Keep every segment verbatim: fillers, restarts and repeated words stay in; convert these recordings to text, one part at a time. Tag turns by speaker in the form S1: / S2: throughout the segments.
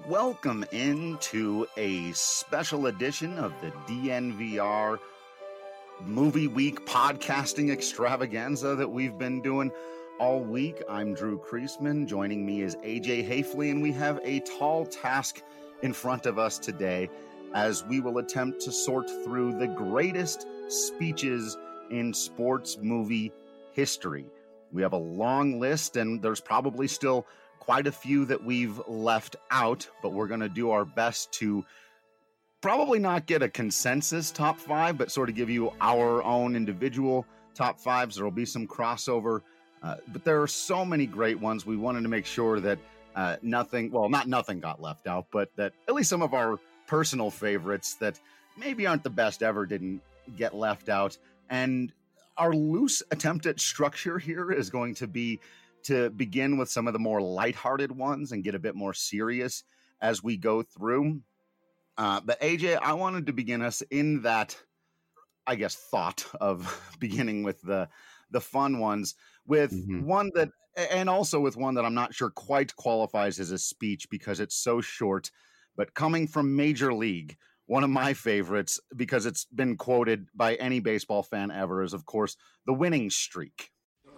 S1: welcome into a special edition of the D N V R Movie Week podcasting extravaganza that we've been doing all week. I'm Drew Kreisman. Joining me is A J Hafley, and we have a tall task in front of us today as we will attempt to sort through the greatest speeches in sports movie history. We have a long list, and there's probably still quite a few that we've left out, but we're going to do our best to probably not get a consensus top five, but sort of give you our own individual top fives. There will be some crossover, uh, but there are so many great ones. We wanted to make sure that uh, nothing, well, not nothing got left out, but that at least some of our personal favorites that maybe aren't the best ever didn't get left out. And our loose attempt at structure here is going to be to begin with some of the more lighthearted ones and get a bit more serious as we go through. Uh, but A J, I wanted to begin us in that, I guess, thought of beginning with the the fun ones with mm-hmm. one that, and also with one that I'm not sure quite qualifies as a speech because it's so short, but coming from Major League, one of my favorites because it's been quoted by any baseball fan ever is, of course, the winning streak.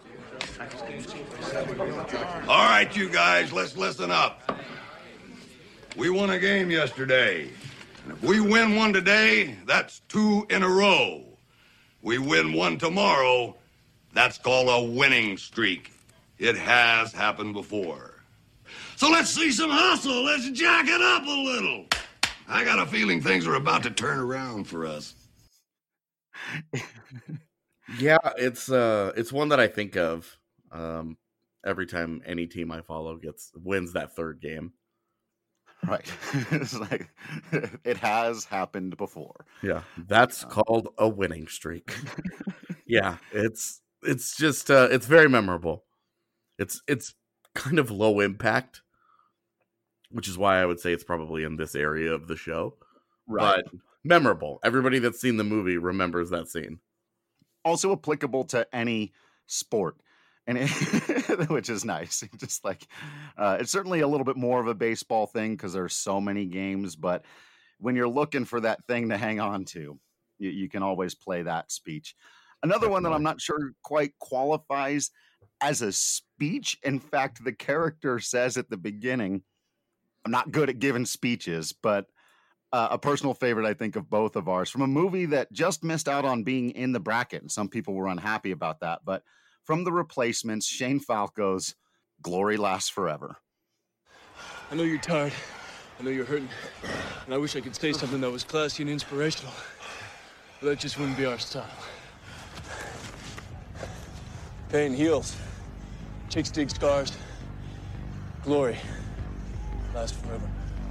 S2: All right, you guys, let's listen up. We won a game yesterday. And if we win one today, that's two in a row. We win one tomorrow, that's called a winning streak. It has happened before. So let's see some hustle. Let's jack it up a little. I got a feeling things are about to turn around for us.
S3: Yeah, it's uh, it's one that I think of um, every time any team I follow gets wins that third game.
S1: Right, it's like it has happened before.
S3: Yeah, that's uh, called a winning streak. Yeah, it's it's just uh, it's very memorable. It's it's kind of low impact, which is why I would say it's probably in this area of the show. Right, but memorable. Everybody that's seen the movie remembers that scene.
S1: Also applicable to any sport, and it, which is nice. Just like uh, it's certainly a little bit more of a baseball thing because there's so many games. But when you're looking for that thing to hang on to, you, you can always play that speech. Another Definitely. one that I'm not sure quite qualifies as a speech. In fact, the character says at the beginning, "I'm not good at giving speeches," but Uh, a personal favorite, I think, of both of ours from a movie that just missed out on being in the bracket. And some people were unhappy about that. But from The Replacements, Shane Falco's Glory Lasts Forever.
S4: I know you're tired. I know you're hurting. And I wish I could say something that was classy and inspirational. But that just wouldn't be our style. Pain heals. Chicks dig scars. Glory lasts forever.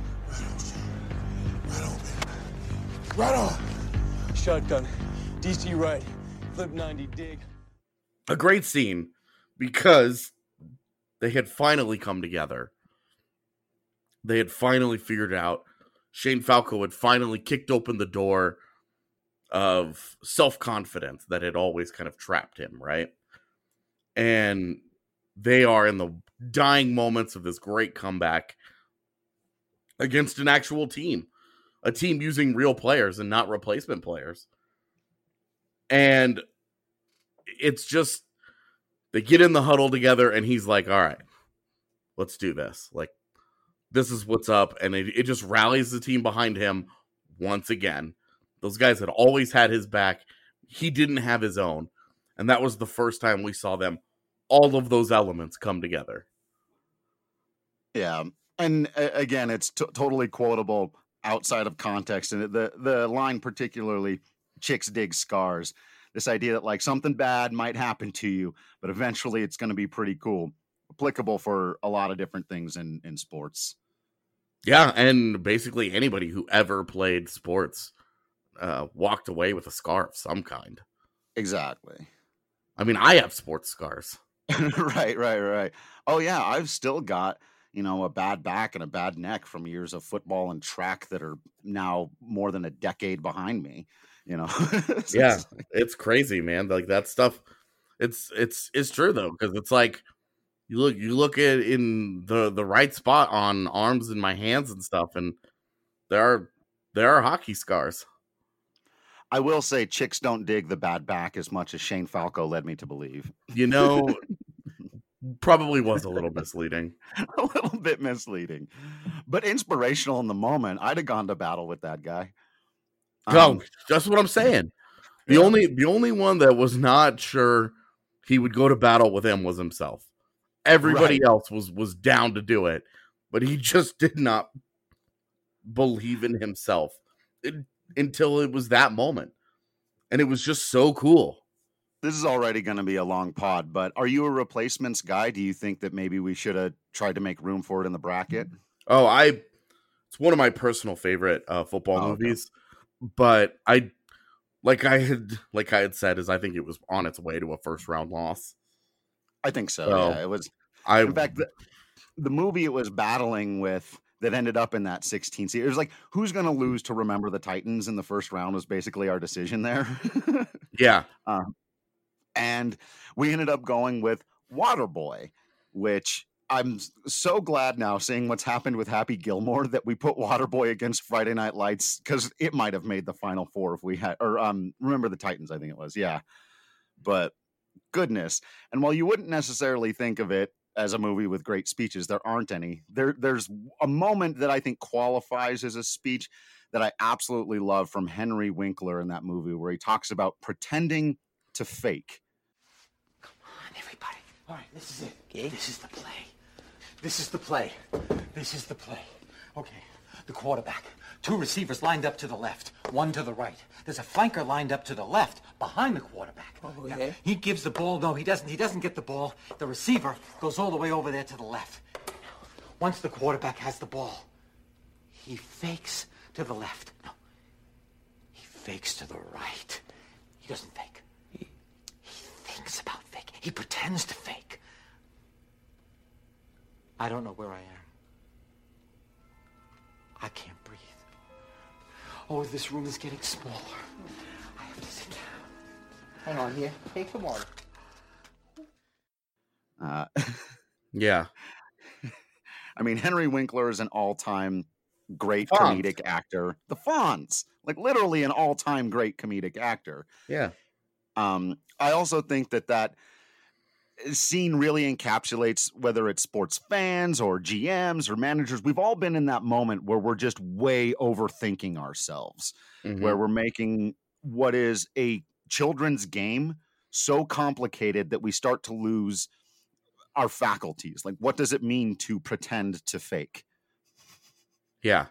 S2: Right on, baby. Right on.
S4: Shotgun. D C right. Flip ninety dig.
S3: A great scene because they had finally come together. They had finally figured out. Shane Falco had finally kicked open the door of self-confidence that had always kind of trapped him, right? And they are in the dying moments of this great comeback against an actual team. A team using real players and not replacement players. And it's just, they get in the huddle together and he's like, all right, let's do this. Like, this is what's up. And it, it just rallies the team behind him once again. Those guys had always had his back. He didn't have his own. And that was the first time we saw them, all of those elements come together.
S1: Yeah. And uh, again, it's t- totally quotable outside of context. And the, the line particularly, chicks dig scars. This idea that like something bad might happen to you, but eventually it's going to be pretty cool. Applicable for a lot of different things in, in sports.
S3: Yeah, and basically anybody who ever played sports uh, walked away with a scar of some kind.
S1: Exactly.
S3: I mean, I have sports scars.
S1: right, right, right. Oh, yeah, I've still got, you know, a bad back and a bad neck from years of football and track that are now more than a decade behind me, you know?
S3: so yeah, it's, it's crazy, man. Like that stuff, it's, it's, it's true though. Cause it's like, You look, you look at in the the right spot on arms and my hands and stuff, and there are there are hockey scars.
S1: I will say, chicks don't dig the bad back as much as Shane Falco led me to believe.
S3: You know, probably was a little misleading.
S1: A little bit misleading, but inspirational in the moment. I'd have gone to battle with that guy.
S3: No,
S1: Um,
S3: that's what I'm saying. The
S1: Yeah.
S3: only the only one that was not sure he would go to battle with him was himself. Everybody
S1: Right.
S3: else was was down to do it, but he just did not believe in himself it- until it was that moment, and it was just so cool.
S1: This is already going to be a long pod, but are you a replacements guy? Do you think that maybe we should have tried to make room for it in the bracket?
S3: Oh, I it's one of my personal favorite uh, football
S1: Oh, okay.
S3: movies, but I like I had like I had said is I think it was on its way to a first round loss.
S1: I think so.
S3: So,
S1: Yeah, it was.
S3: I
S1: In fact, the, the movie it was battling with that ended up in that sixteen seed. It was like, who's going to lose to Remember the Titans in the first round was basically our decision there.
S3: yeah,
S1: Um, and we ended up going with Waterboy, which I'm s- so glad now seeing what's happened with Happy Gilmore that we put Waterboy against Friday Night Lights because it might have made the final four if we had, or um, Remember the Titans, I think it was. Yeah. But goodness. And while you wouldn't necessarily think of it as a movie with great speeches, there aren't any. There, there's a moment that I think qualifies as a speech that I absolutely love from Henry Winkler in that movie where he talks about pretending to fake.
S5: Come on, everybody. All right, this is it. Okay. This is the play. This is the play. This is the play. Okay, the quarterback. Two receivers lined up to the left, one to the right. There's a flanker lined up to the left, behind the quarterback.
S6: Okay.
S5: Now, he gives the ball. No, he doesn't. He doesn't get the ball. The receiver goes all the way over there to the left. Once the quarterback has the ball, he fakes to the left. No, he fakes to the right. He doesn't fake. He, he thinks about fake. He pretends to fake. I don't know where I am. I can't breathe. Oh, this room is getting smaller. I have to sit down.
S6: Hang on here. Take some water.
S1: Uh,
S3: yeah.
S1: I mean, Henry Winkler is an all-time great
S3: Fonz.
S1: comedic actor. The Fonz, like literally an all-time great comedic actor.
S3: Yeah.
S1: Um, I also think that that scene really encapsulates whether it's sports fans or G Ms or managers. We've all been in that moment where we're just way overthinking ourselves,
S3: Mhm.
S1: where we're making what is a children's game so complicated that we start to lose our faculties. Like, what does it mean to pretend to fake?
S3: Yeah.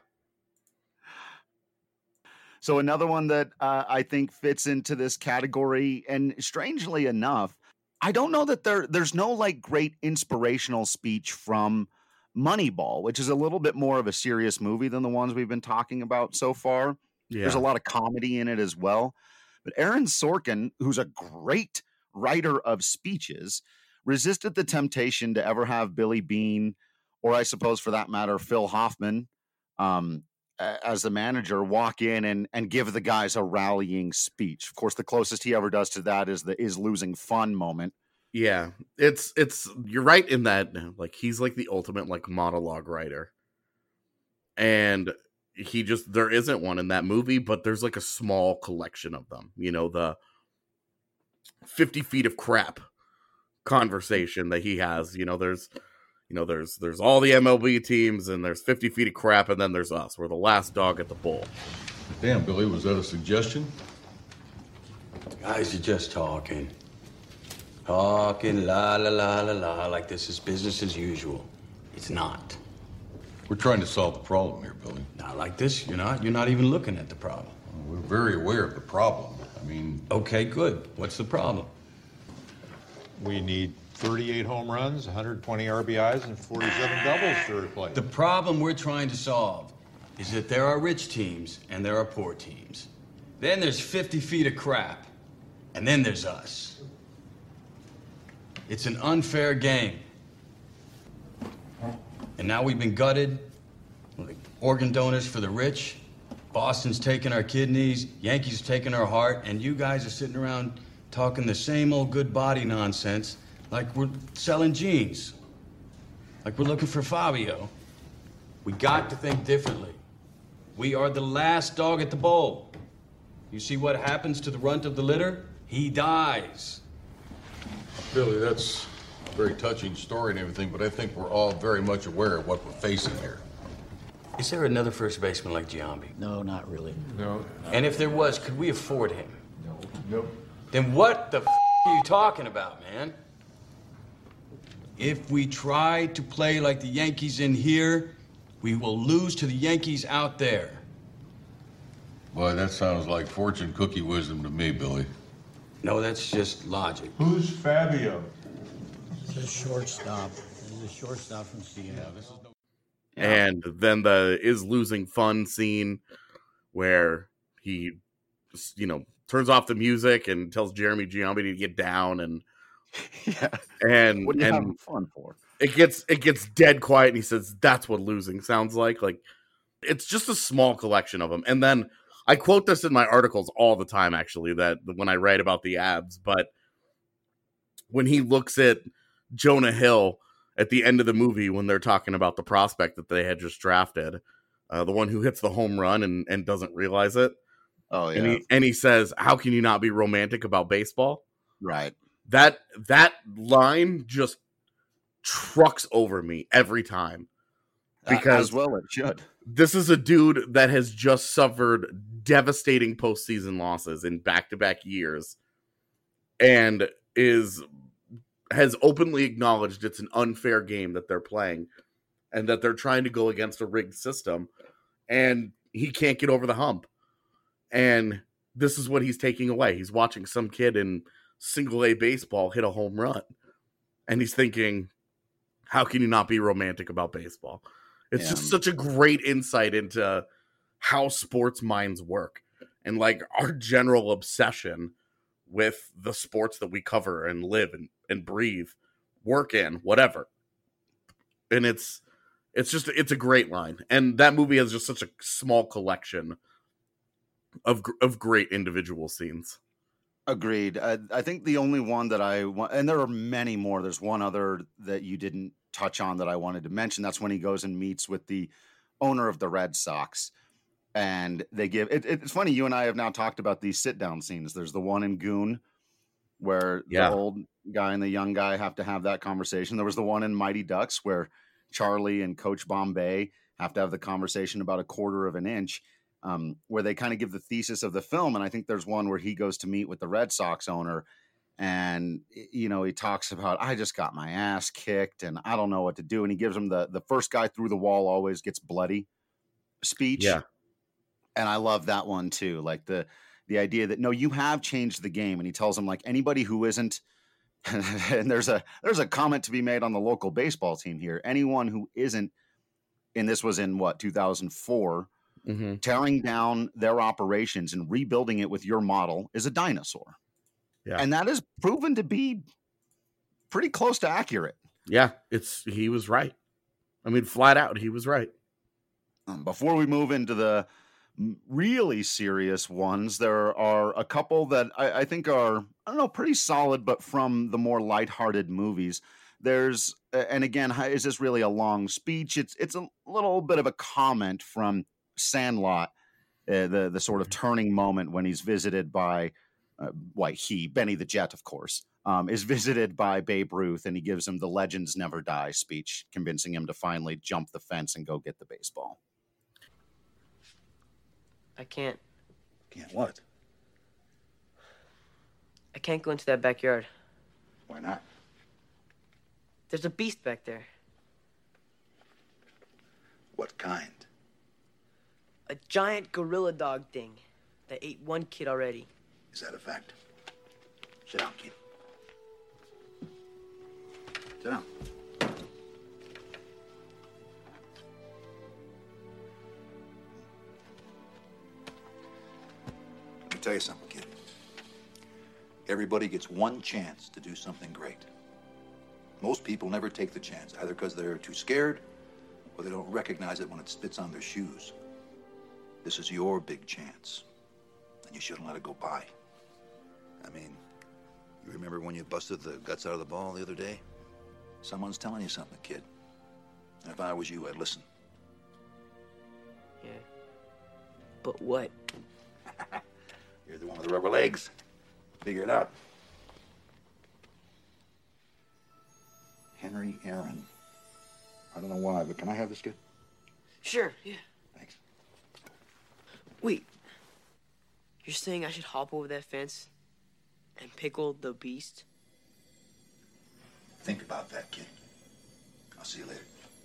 S1: So another one that uh, I think fits into this category, and strangely enough, I don't know that there there's no like great inspirational speech from Moneyball, which is a little bit more of a serious movie than the ones we've been talking about so far.
S3: Yeah.
S1: There's a lot of comedy in it as well. But Aaron Sorkin, who's a great writer of speeches, resisted the temptation to ever have Billy Beane, or I suppose for that matter, Phil Hoffman, um, a- as the manager, walk in and and give the guys a rallying speech. Of course, the closest he ever does to that is the is losing fun moment.
S3: Yeah. It's it's you're right in that like he's like the ultimate like monologue writer. And he just there isn't one in that movie, but there's like a small collection of them. You know, the fifty feet of crap conversation that he has. You know, there's you know, there's there's all the M L B teams and there's fifty feet of crap, and then there's us. We're the last dog at the bowl.
S7: Damn, Billy, was that a suggestion?
S8: Guys are just talking. Talking la la la la la like this is business as usual. It's not.
S7: We're trying to solve the problem here, Billy.
S8: Not like this, you're not. You're not even looking at the problem.
S7: We're very aware of the problem. I mean,
S8: Okay, good. What's the problem?
S9: We need thirty-eight home runs, one hundred twenty R B Is, and forty-seven doubles to replace.
S8: The problem we're trying to solve is that there are rich teams and there are poor teams. Then there's fifty feet of crap. And then there's us. It's an unfair game. And now we've been gutted, like organ donors for the rich. Boston's taking our kidneys, Yankees taking our heart, and you guys are sitting around talking the same old good body nonsense like we're selling jeans. Like we're looking for Fabio. We got to think differently. We are the last dog at the bowl. You see what happens to the runt of the litter? He dies.
S7: Billy, that's a very touching story and everything, but I think we're all very much aware of what we're facing here.
S8: Is there another first baseman like Giambi?
S6: No, not really.
S9: No.
S8: And if there was, could we afford him?
S9: No. Nope.
S8: Then what the f are you talking about, man? If we try to play like the Yankees in here, we will lose to the Yankees out there.
S7: Boy, that sounds like fortune cookie wisdom to me, Billy.
S8: No, that's just logic.
S9: Who's Fabio?
S6: He's a shortstop. He's a shortstop from Seattle.
S7: Yeah, this is no-
S3: And then the is losing fun scene where he, you know, turns off the music and tells Jeremy Giambi to get down, and
S1: Yeah.
S3: and
S1: What are you
S3: and
S1: having fun for?
S3: it gets it gets dead quiet, and he says, "That's what losing sounds like." Like, it's just a small collection of them. And then I quote this in my articles all the time, actually, that when I write about the Abs. But when he looks at Jonah Hill at the end of the movie, when they're talking about the prospect that they had just drafted, uh, the one who hits the home run and, and doesn't realize it.
S1: Oh, yeah.
S3: And he, and he says, "How can you not be romantic about baseball?"
S1: Right.
S3: That that line just trucks over me every time. Because
S1: As well it should.
S3: this is a dude that has just suffered devastating postseason losses in back-to-back years and is has openly acknowledged it's an unfair game that they're playing and that they're trying to go against a rigged system, and he can't get over the hump. And this is what he's taking away. He's watching some kid in single A baseball hit a home run, and he's thinking, how can you not be romantic about baseball? It's
S1: Yeah.
S3: just such a great insight into how sports minds work and like our general obsession with the sports that we cover and live and, and breathe, work in, whatever. And it's it's just it's a great line. And that movie has just such a small collection of of great individual scenes.
S1: Agreed. I, I think the only one that I want, and there are many more. There's one other that you didn't touch on that I wanted to mention. That's when he goes and meets with the owner of the Red Sox, and they give. It, it's funny. You and I have now talked about these sit down scenes. There's the one in Goon, where
S3: Yeah.
S1: the old guy and the young guy have to have that conversation. There was the one in Mighty Ducks where Charlie and Coach Bombay have to have the conversation about a quarter of an inch. Um, where they kind of give the thesis of the film. And I think there's one where he goes to meet with the Red Sox owner and, you know, he talks about, I just got my ass kicked and I don't know what to do. And he gives him the, the first guy through the wall always gets bloody speech.
S3: Yeah.
S1: And I love that one too. Like the, the idea that, no, you have changed the game. And he tells him like anybody who isn't, and there's a, there's a comment to be made on the local baseball team here. Anyone who isn't, and this was in what, two thousand four,
S3: Mm-hmm.
S1: tearing down their operations and rebuilding it with your model is a dinosaur.
S3: Yeah.
S1: And that is proven to be pretty close to accurate.
S3: Yeah, it's he was right. I mean, flat out, he was right.
S1: Um, before we move into the really serious ones, there are a couple that I, I think are, I don't know, pretty solid, but from the more lighthearted movies. There's, and again, is this really a long speech? It's it's a little bit of a comment from Sandlot, uh, the the sort of turning moment when he's visited by, uh, why he Benny the Jet, of course, um, is visited by Babe Ruth, and he gives him the "Legends Never Die" speech, convincing him to finally jump the fence and go get the baseball.
S10: I can't.
S1: Can't what?
S10: I can't go into that backyard.
S1: Why not?
S10: There's a beast back there.
S1: What kind?
S10: A giant gorilla dog thing that ate one kid already.
S1: Is that a fact? Sit down, kid. Sit down.
S11: Let me tell you something, kid. Everybody gets one chance to do something great. Most people never take the chance, either because they're too scared or they don't recognize it when it spits on their shoes. This is your big chance, and you shouldn't let it go by. I mean, you remember when you busted the guts out of the ball the other day? Someone's telling you something, kid. And if I was you, I'd listen.
S10: Yeah. But what?
S11: You're the one with the rubber legs. Figure it out. Henry Aaron. I don't know why, but can I have this kid?
S10: Sure, yeah.
S11: Thanks.
S10: Wait. You're saying I should hop over that fence and pickle the beast?
S11: Think about that, kid. I'll see you later.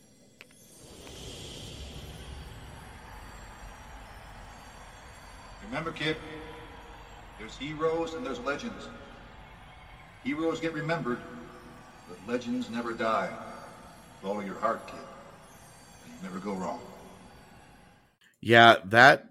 S11: Remember, kid, there's heroes and there's legends. Heroes get remembered, but legends never die. Follow your heart, kid. You never go wrong.
S3: Yeah, that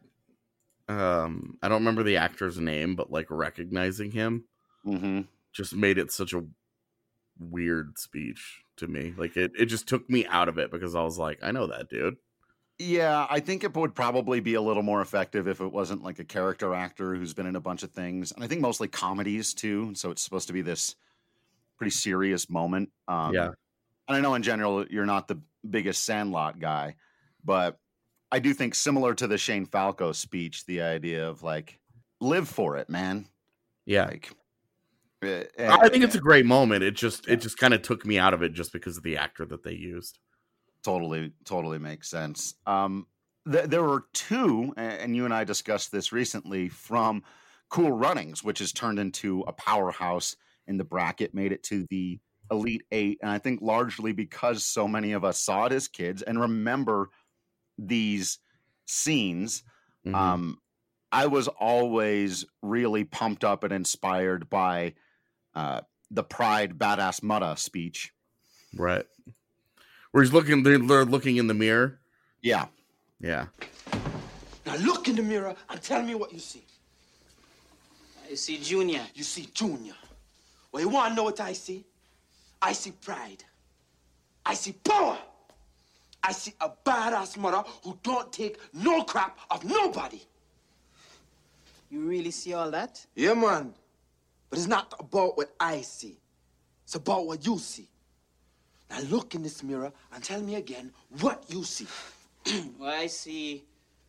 S3: um I don't remember the actor's name, but like recognizing him
S1: mm-hmm.
S3: just made it such a weird speech to me. Like it, it just took me out of it because I was like, I know that dude.
S1: Yeah, I think it would probably be a little more effective if it wasn't like a character actor who's been in a bunch of things. And I think mostly comedies too. So it's supposed to be this pretty serious moment. Um,
S3: yeah.
S1: And I know in general, you're not the biggest Sandlot guy, but I do think similar to the Shane Falco speech, the idea of like, live for it, man.
S3: Yeah.
S1: Like,
S3: I think it's a great moment. It just, it just kind of took me out of it just because of the actor that they used.
S1: Totally, totally makes sense. Um, th- there were two, and you and I discussed this recently, from Cool Runnings, which has turned into a powerhouse in the bracket, made it to the Elite Eight. And I think largely because so many of us saw it as kids and remember these scenes,
S3: mm-hmm.
S1: um, I was always really pumped up and inspired by uh, the Pride Badass Mutta speech.
S3: Right. Where he's looking, they're looking in the mirror.
S1: Yeah.
S3: Yeah.
S12: Now look in the mirror and tell me what you see.
S13: I see Junior.
S12: You see Junior. Well, you want to know what I see? I see pride. I see power. I see a badass mother who don't take no crap of nobody.
S13: You really see all that?
S12: Yeah, man. But it's not about what I see. It's about what you see. Now look in this mirror and tell me again what you see.
S13: Well, I see...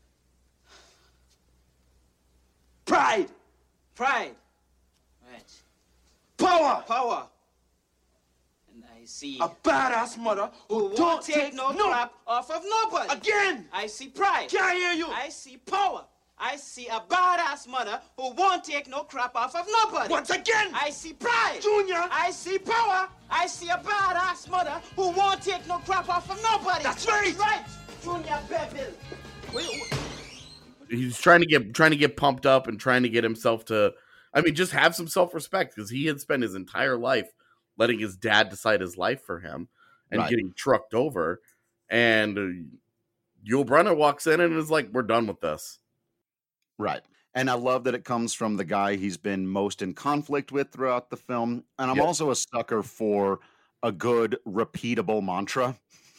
S12: Pride!
S13: Pride! Right.
S12: Power!
S13: Power! And I see...
S12: A badass mother who,
S13: who
S12: don't
S13: won't take, take no, no crap off of nobody.
S12: Again!
S13: I see pride.
S12: Can't hear you!
S13: I see power. I see a badass mother who won't take no crap off of nobody.
S12: Once again!
S13: I see pride.
S12: Junior!
S13: I see power. I see a badass mother who won't take no crap off of nobody.
S12: That's right!
S13: That's right, Junior Bevel. Wait, wait.
S3: He's trying to get trying to get pumped up and trying to get himself to, I mean, just have some self-respect because he had spent his entire life letting his dad decide his life for him and
S1: right.
S3: getting trucked over. And uh, Yul Brynner walks in and is like, we're done with this.
S1: Right. And I love that it comes from the guy he's been most in conflict with throughout the film. And I'm
S3: yep.
S1: also a sucker for a good, repeatable mantra.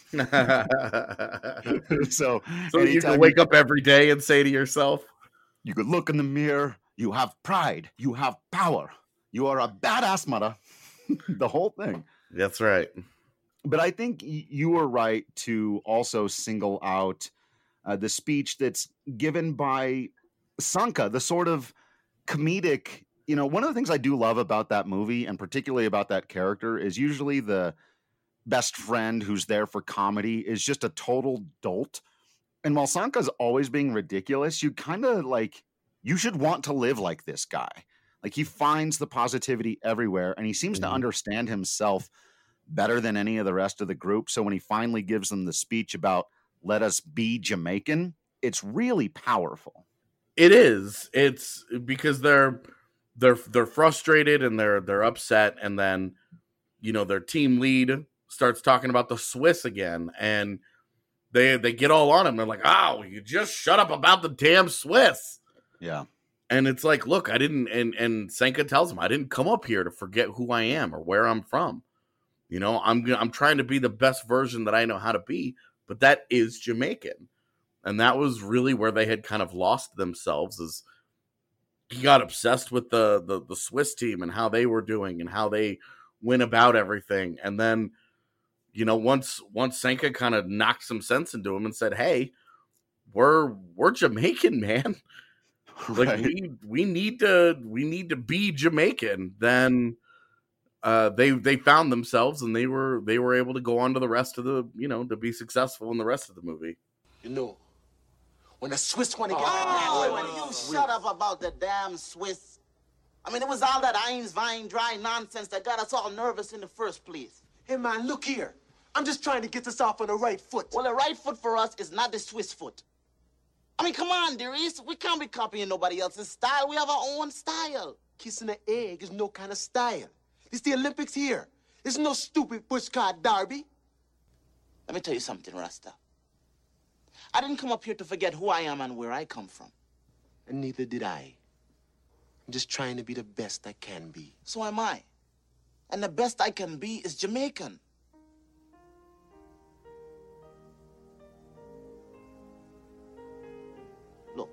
S1: so
S3: so you can wake you, up every day and say to yourself,
S1: you could look in the mirror, you have pride, you have power, you are a badass mother. The whole thing.
S3: That's right.
S1: But I think you were right to also single out uh, the speech that's given by Sanka, the sort of comedic, you know, one of the things I do love about that movie and particularly about that character is usually the best friend who's there for comedy is just a total dolt. And while Sanka's always being ridiculous, you kind of like, you should want to live like this guy. Like he finds the positivity everywhere and he seems mm-hmm. to understand himself better than any of the rest of the group. So when he finally gives them the speech about let us be Jamaican, it's really powerful.
S3: It is. It's because they're they're they're frustrated and they're they're upset, and then you know their team lead starts talking about the Swiss again, and they they get all on him. They're like, "Oh, you just shut up about the damn Swiss."
S1: Yeah,
S3: and it's like, look, I didn't. And and Sanka tells him, "I didn't come up here to forget who I am or where I'm from. You know, I'm I'm trying to be the best version that I know how to be, but that is Jamaican." And that was really where they had kind of lost themselves. Is he got obsessed with the, the the Swiss team and how they were doing and how they went about everything. And then, you know, once once Sanka kind of knocked some sense into him and said, "Hey, we're we're Jamaican, man. Like
S1: Right.
S3: we we need to we need to be Jamaican." Then uh, they they found themselves, and they were they were able to go on to the rest of the you know to be successful in the rest of the movie.
S12: You know, when the Swiss want to get
S13: Oh,
S12: mad,
S13: and you shut up about the damn Swiss. I mean, it was all that Eins, Wein, dry nonsense that got us all nervous in the first place.
S12: Hey, man, look here. I'm just trying to get us off on the right foot.
S13: Well, the right foot for us is not the Swiss foot. I mean, come on, dearies. We can't be copying nobody else's style. We have our own style.
S12: Kissing an egg is no kind of style. It's the Olympics here. There's no stupid pushcart derby.
S13: Let me tell you something, Rasta. I didn't come up here to forget who I am and where I come from.
S12: And neither did I. I'm just trying to be the best I can be.
S13: So am I. And the best I can be is Jamaican. Look,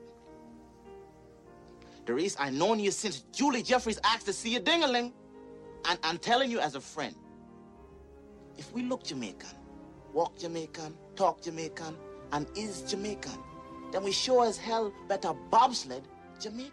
S13: Doris, I've known you since Julie Jeffries asked to see you ding-a-ling. And I'm telling you as a friend, if we look Jamaican, walk Jamaican, talk Jamaican, and is Jamaican, then we sure as hell better bobsled Jamaica.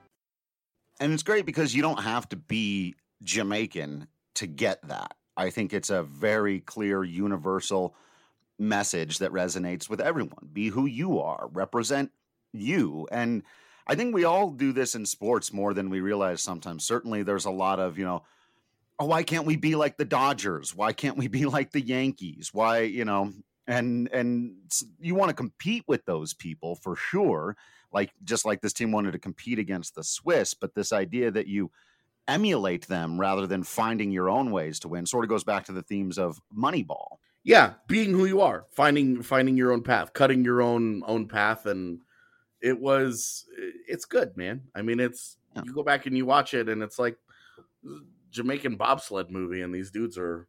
S1: And it's great because you don't have to be Jamaican to get that. I think it's a very clear, universal message that resonates with everyone. Be who you are, represent you. And I think we all do this in sports more than we realize sometimes. Certainly there's a lot of, you know, oh, why can't we be like the Dodgers? Why can't we be like the Yankees? Why, you know, and and you want to compete with those people for sure. Like, just like this team wanted to compete against the Swiss, but this idea that you emulate them rather than finding your own ways to win sort of goes back to the themes of Moneyball.
S3: Yeah, being who you are, finding finding your own path, cutting your own own path, and it was it's good, man. I mean, it's yeah. You go back and you watch it, and it's like Jamaican bobsled movie, and these dudes are,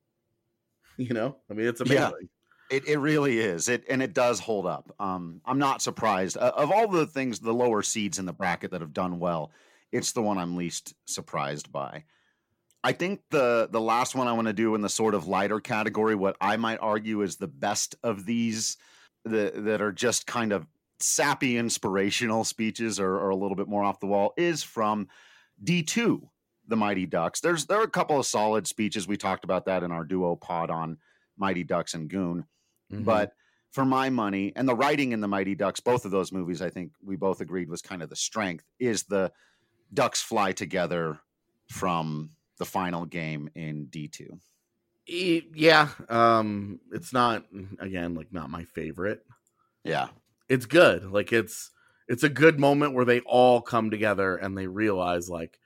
S3: you know, I mean, it's amazing.
S1: Yeah. It it really is. It and it does hold up. Um, I'm not surprised. Uh, of all the things, the lower seeds in the bracket that have done well, it's the one I'm least surprised by. I think the the last one I want to do in the sort of lighter category, what I might argue is the best of these, the, that are just kind of sappy, inspirational speeches or, or a little bit more off the wall, is from D two, the Mighty Ducks. There's there are a couple of solid speeches. We talked about that in our duo pod on Mighty Ducks and Goon. Mm-hmm. But for my money, and the writing in the Mighty Ducks, both of those movies, I think we both agreed was kind of the strength, is the Ducks fly together from the final game in D two.
S3: Yeah. Um, it's not, again, like not my favorite.
S1: Yeah.
S3: It's good. Like it's, it's a good moment where they all come together and they realize like,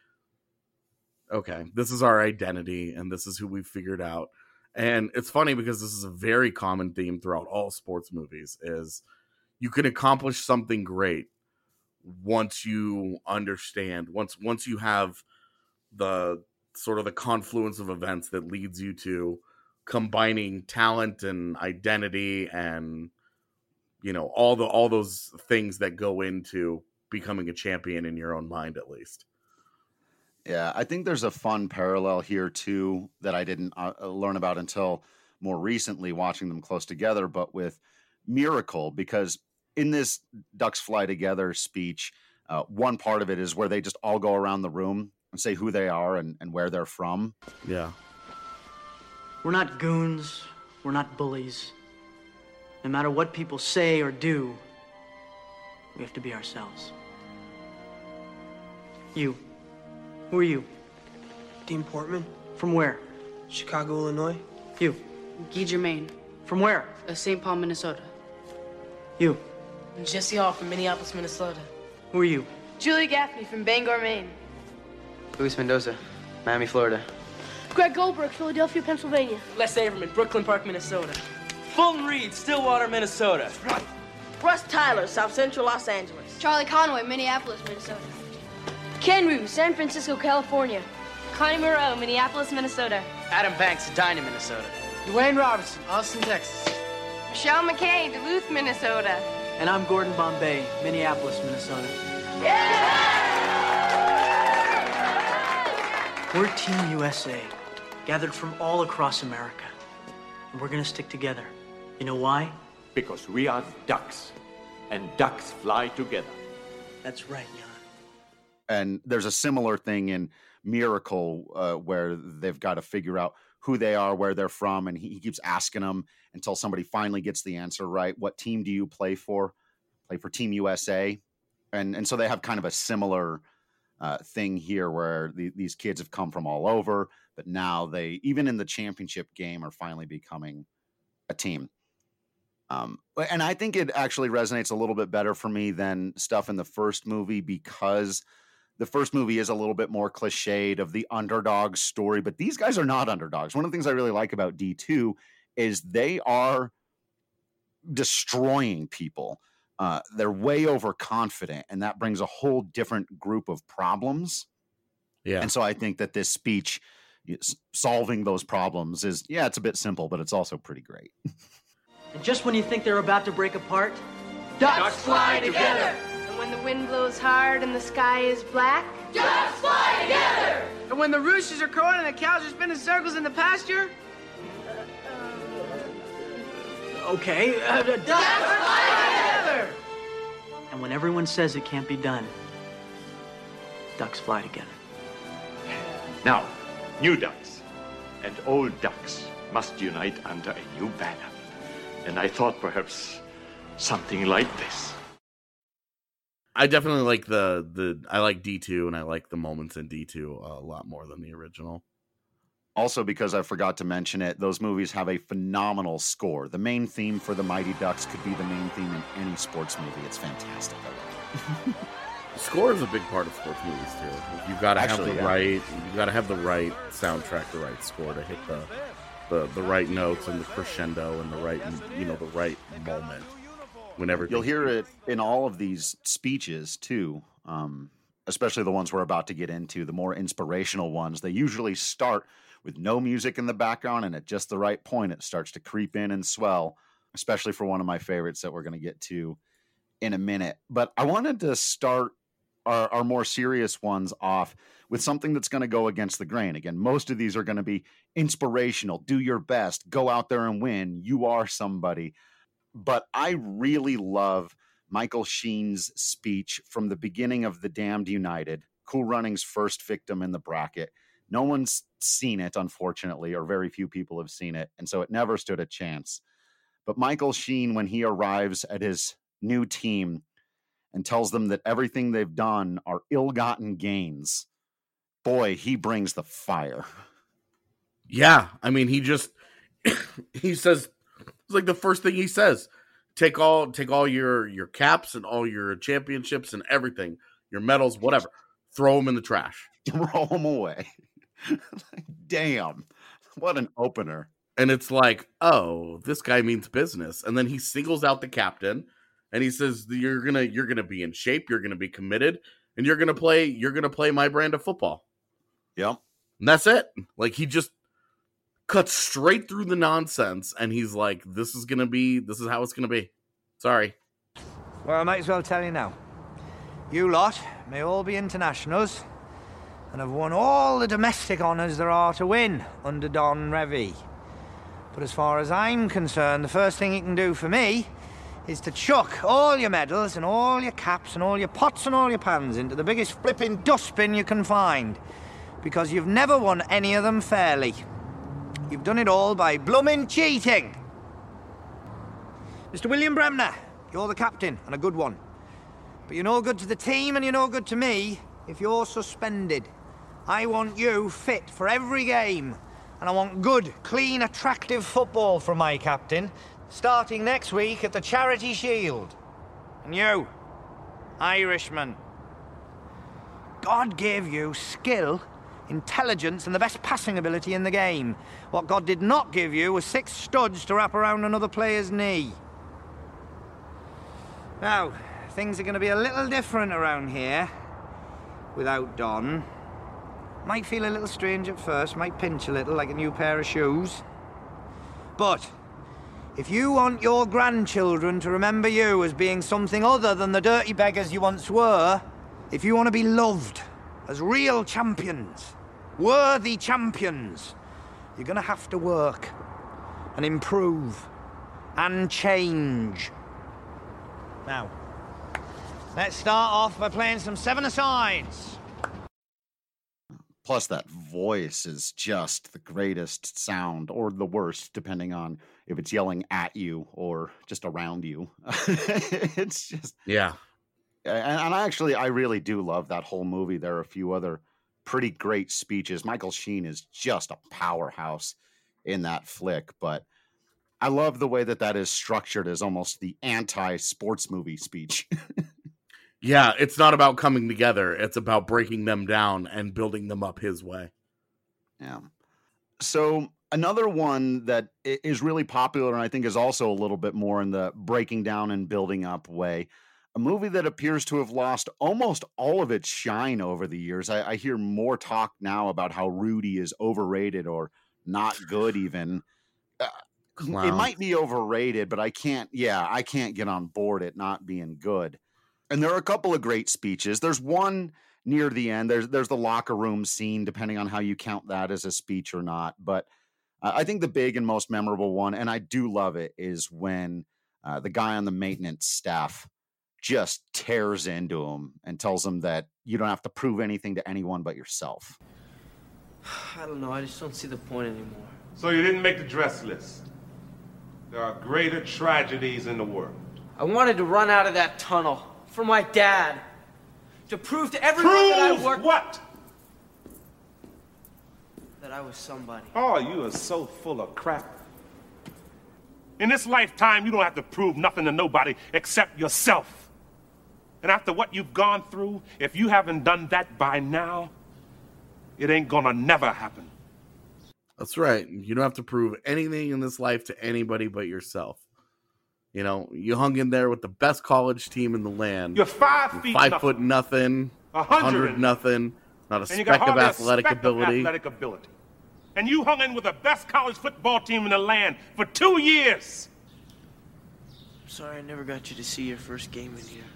S3: okay, this is our identity and this is who we've figured out. And it's funny because this is a very common theme throughout all sports movies is you can accomplish something great once you understand, once once you have the sort of the confluence of events that leads you to combining talent and identity and, you know, all the all those things that go into becoming a champion in your own mind, at least.
S1: Yeah, I think there's a fun parallel here, too, that I didn't uh, learn about until more recently watching them close together, but with Miracle, because in this Ducks Fly Together speech, uh, one part of it is where they just all go around the room and say who they are and, and where they're from.
S3: Yeah.
S14: We're not goons. We're not bullies. No matter what people say or do, we have to be ourselves. You. Who are you?
S15: Dean Portman.
S14: From where?
S15: Chicago, Illinois.
S14: You.
S16: Guy Germain.
S14: From where?
S16: Uh, Saint Paul, Minnesota.
S14: You.
S15: Jesse Hall from Minneapolis, Minnesota.
S14: Who are you?
S16: Julie Gaffney from Bangor, Maine.
S17: Luis Mendoza, Miami, Florida.
S18: Greg Goldberg, Philadelphia, Pennsylvania.
S15: Les Averman, Brooklyn Park, Minnesota. Fulton Reed, Stillwater, Minnesota.
S19: Russ Tyler, South Central Los Angeles.
S18: Charlie Conway, Minneapolis, Minnesota. Ken Rue, San Francisco, California.
S20: Connie Moreau, Minneapolis, Minnesota.
S17: Adam Banks, Edina, Minnesota.
S15: Dwayne Robertson, Austin, Texas.
S20: Michelle McKay, Duluth, Minnesota.
S14: And I'm Gordon Bombay, Minneapolis, Minnesota.
S15: Yeah!
S14: We're Team U S A, gathered from all across America. and we're gonna stick together. You know why?
S6: Because we are ducks, and ducks fly together.
S14: That's right, Jan.
S1: And there's a similar thing in Miracle uh, where they've got to figure out who they are, where they're from, and he, he keeps asking them until somebody finally gets the answer right. What team do you play for? Play for Team U S A. And and so they have kind of a similar uh, thing here where the, these kids have come from all over, but now they, even in the championship game, are finally becoming a team. Um, and I think it actually resonates a little bit better for me than stuff in the first movie, because the first movie is a little bit more cliched of the underdog story, but these guys are not underdogs. One of the things I really like about D two is they are destroying people. Uh, they're way overconfident, and that brings a whole different group of problems.
S3: Yeah.
S1: And so I think that this speech solving those problems is, yeah, it's a bit simple, but it's also pretty great.
S14: And just when you think they're about to break apart,
S20: Ducks,
S14: ducks
S20: fly together. And when the wind blows hard and the sky is black, ducks fly together.
S15: And when the roosters are crowing and the cows are spinning circles in the pasture,
S14: okay, uh, ducks,
S20: ducks fly together.
S14: And when everyone says it can't be done, ducks fly together.
S6: Now, new ducks and old ducks must unite under a new banner. And I thought perhaps something like this.
S3: I definitely like the the I like D two, and I like the moments in D two a lot more than the original.
S1: Also, because I forgot to mention it, those movies have a phenomenal score. The main theme for the Mighty Ducks could be the main theme in any sports movie. It's fantastic. I love it.
S3: Score is a big part of sports movies too. You've got to have the
S1: yeah.
S3: right, you've got to have the right soundtrack, the right score to hit the, the the right notes and the crescendo and the right, you know, the right moment. Whenever
S1: you'll hear it in all of these speeches too, um, especially the ones we're about to get into, the more inspirational ones. They usually start with no music in the background, and at just the right point, it starts to creep in and swell. Especially for one of my favorites that we're going to get to in a minute. But I wanted to start our, our more serious ones off with something that's going to go against the grain. Again, most of these are going to be inspirational. Do your best. Go out there and win. You are somebody. But I really love Michael Sheen's speech from the beginning of The Damned United, Cool Running's first victim in the bracket. No one's seen it, unfortunately, or very few people have seen it, and so it never stood a chance. But Michael Sheen, when he arrives at his new team and tells them that everything they've done are ill-gotten gains, boy, he brings the fire.
S3: Yeah, I mean, he just, he says, it's like the first thing he says, take all take all your, your caps and all your championships and everything, your medals, whatever, throw them in the trash.
S1: Throw them away. Like, damn, what an opener.
S3: And it's like, oh, this guy means business. And then he singles out the captain and he says, you're gonna you're gonna be in shape, you're gonna be committed, and you're gonna play, you're gonna play my brand of football.
S1: Yep.
S3: And that's it. Like, he just cuts straight through the nonsense, and he's like, this is gonna be, this is how it's gonna be. Sorry.
S21: Well, I might as well tell you now. You lot may all be internationals and have won all the domestic honours there are to win under Don Revie. But as far as I'm concerned, the first thing you can do for me is to chuck all your medals and all your caps and all your pots and all your pans into the biggest flipping dustbin you can find, because you've never won any of them fairly. You've done it all by bloomin' cheating. Mister William Bremner, you're the captain, and a good one. But you're no good to the team and you're no good to me if you're suspended. I want you fit for every game. And I want good, clean, attractive football from my captain, starting next week at the Charity Shield. And you, Irishman, God gave you skill, intelligence, and the best passing ability in the game. What God did not give you was six studs to wrap around another player's knee. Now, things are going to be a little different around here without Don. Might feel a little strange at first, might pinch a little like a new pair of shoes. But if you want your grandchildren to remember you as being something other than the dirty beggars you once were, if you want to be loved as real champions, worthy champions, you're going to have to work. and improve and change. Now, let's start off by playing some seven-a-sides.
S1: Plus, that voice is just the greatest sound, or the worst, depending on if it's yelling at you or just around you. It's just...
S3: Yeah.
S1: And, and I actually, I really do love that whole movie. There are a few other pretty great speeches. Michael Sheen is just a powerhouse in that flick, but I love the way that that is structured as almost the anti-sports movie speech.
S3: Yeah, it's not about coming together. It's about breaking them down and building them up his way.
S1: Yeah. So another one that is really popular and I think is also a little bit more in the breaking down and building up way, a movie that appears to have lost almost all of its shine over the years. I, I hear more talk now about how Rudy is overrated or not good even. Uh, it might be overrated, but I can't, yeah, I can't get on board it not being good. And there are a couple of great speeches. There's one near the end. There's there's the locker room scene, depending on how you count that as a speech or not. But uh, I think the big and most memorable one, and I do love it, is when uh, the guy on the maintenance staff just tears into him and tells him that you don't have to prove anything to anyone but yourself.
S15: I don't know. I just don't see the point anymore.
S2: So you didn't make the dress list. There are greater tragedies in the world.
S15: I wanted to run out of that tunnel for my dad. To prove to everyone
S2: prove
S15: that I worked...
S2: what?
S15: That I was somebody.
S2: Oh, you are so full of crap. In this lifetime, you don't have to prove nothing to nobody except yourself. And after what you've gone through, if you haven't done that by now, it ain't gonna never happen.
S3: That's right. You don't have to prove anything in this life to anybody but yourself. You know, you hung in there with the best college team in the land.
S2: You're five feet
S3: five
S2: nothing.
S3: foot nothing,
S2: a
S3: hundred nothing, not a
S2: and
S3: speck
S2: you got
S3: of
S2: hardly a
S3: athletic
S2: speck
S3: ability.
S2: Of athletic ability. And you hung in with the best college football team in the land for two years.
S15: I'm sorry I never got you to see your first game in here.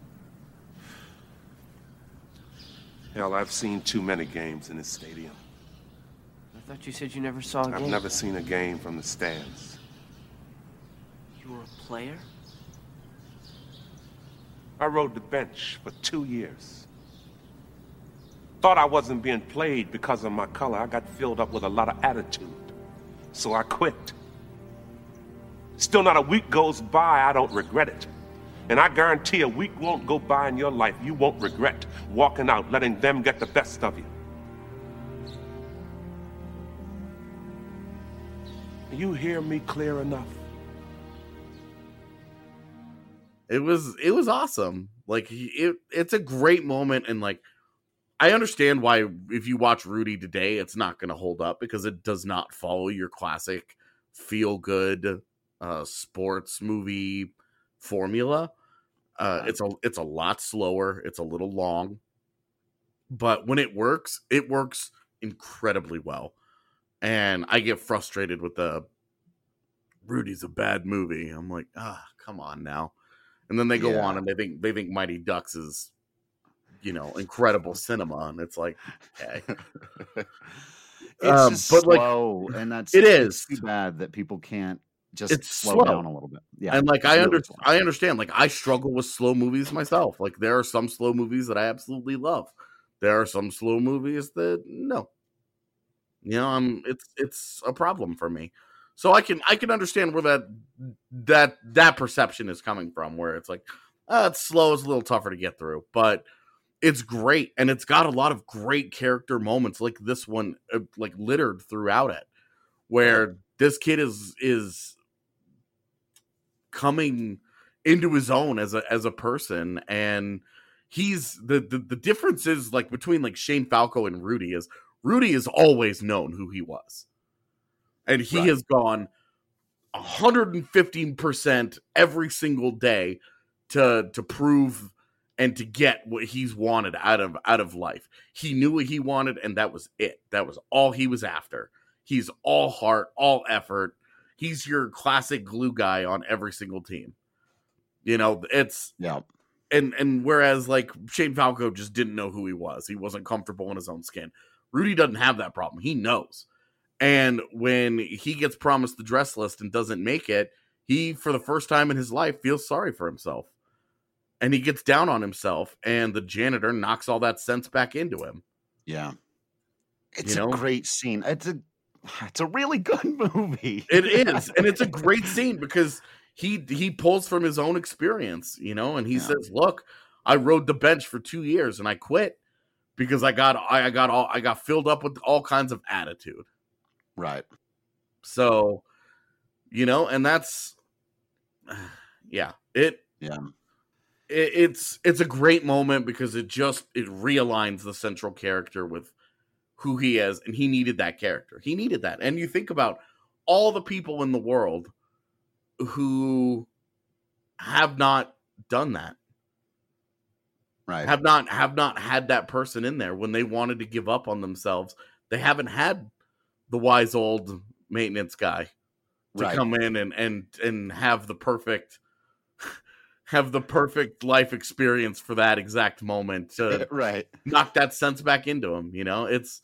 S2: Hell, I've seen too many games in this stadium.
S15: I thought you said you never saw a game.
S2: I've never seen a game from the stands.
S15: You were a player?
S2: I rode the bench for two years. Thought I wasn't being played because of my color. I got filled up with a lot of attitude. So I quit. Still not a week goes by, I don't regret it. And I guarantee a week won't go by in your life you won't regret walking out, letting them get the best of you. You hear me clear enough?
S3: It was it was awesome. Like it, it's a great moment, and like I understand why if you watch Rudy today, it's not going to hold up because it does not follow your classic feel good uh, sports movie formula. Uh, it's a it's a lot slower. It's a little long, but when it works, it works incredibly well. And I get frustrated with the Rudy's a bad movie. I'm like, ah, come on now. And then they go
S1: Yeah.
S3: on and they think they think Mighty Ducks is, you know, incredible cinema, and it's like, okay.
S1: It's
S3: Um,
S1: just
S3: but, like,
S1: slow, and that's
S3: it
S1: it's
S3: is.
S1: too bad that people can't just
S3: It's
S1: slow,
S3: slow.
S1: down a little bit. Yeah,
S3: and like
S1: it's
S3: I
S1: really
S3: under
S1: slow.
S3: I understand. Like I struggle with slow movies myself. Like there are some slow movies that I absolutely love. There are some slow movies that no. You know, I'm it's it's a problem for me. So I can I can understand where that that that perception is coming from, where it's like, uh, it's slow, it's a little tougher to get through, but it's great, and it's got a lot of great character moments, like this one, uh, like littered throughout it, where this kid is is coming into his own as a as a person, and he's the the, the difference is like between like Shane Falco and Rudy is Rudy has always known who he was. And he
S1: Right.
S3: has gone one hundred fifteen percent every single day to to prove and to get what he's wanted out of out of life. He knew what he wanted, and that was it. That was all he was after. He's all heart, all effort. He's your classic glue guy on every single team. You know, it's
S1: yeah.
S3: And and whereas like Shane Falco just didn't know who he was. He wasn't comfortable in his own skin. Rudy doesn't have that problem. He knows. And when he gets promised the dress list and doesn't make it, he, for the first time in his life, feels sorry for himself. And he gets down on himself, and the janitor knocks all that sense back into him.
S1: Yeah. It's
S3: You
S1: a
S3: know?
S1: great scene. It's a it's a really good movie.
S3: It is, and it's a great scene because he he pulls from his own experience, you know, and he
S1: Yeah.
S3: says, "Look, I rode the bench for two years and I quit because I got I got all I got filled up with all kinds of attitude."
S1: Right.
S3: So, you know, and that's yeah, it
S1: yeah.
S3: It, it's it's a great moment because it just it realigns the central character with who he is, and he needed that character. He needed that. And you think about all the people in the world who have not done that.
S1: Right.
S3: Have not have not had that person in there when they wanted to give up on themselves. They haven't had the wise old maintenance guy to
S1: Right.
S3: come in and and and have the perfect have the perfect life experience for that exact moment to
S1: Right.
S3: knock that sense back into him. You know, it's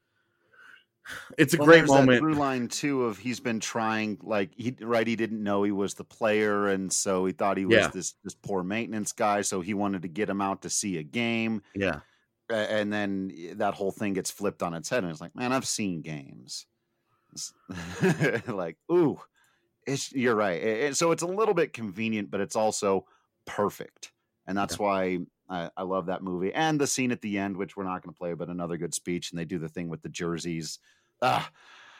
S3: it's a
S1: Well,
S3: great
S1: there's that
S3: moment.
S1: through line too of he's been trying, like he right. He didn't know he was the player, and so he thought he was
S3: Yeah.
S1: this this poor maintenance guy. So he wanted to get him out to see a game.
S3: Yeah.
S1: A- and then that whole thing gets flipped on its head, and it's like, man, I've seen games. It's like, ooh, it's you're right. It- it- so it's a little bit convenient, but it's also perfect, and that's why I, I love that movie. And the scene at the end, which we're not going to play, but another good speech, and they do the thing with the jerseys. Ah,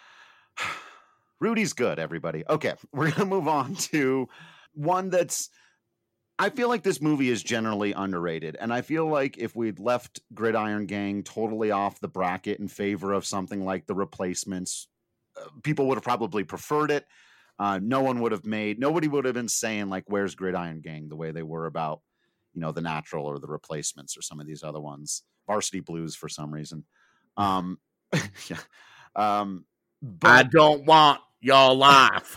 S1: Rudy's good, everybody. Okay, we're going to move on to one that's, I feel like this movie is generally underrated. And I feel like if we'd left Gridiron Gang totally off the bracket in favor of something like The Replacements, uh, people would have probably preferred it. Uh, no one would have made, nobody would have been saying, like, where's Gridiron Gang, the way they were about, you know, The Natural or The Replacements or some of these other ones. Varsity Blues for some reason. Um, yeah. Um,
S3: I don't want your life.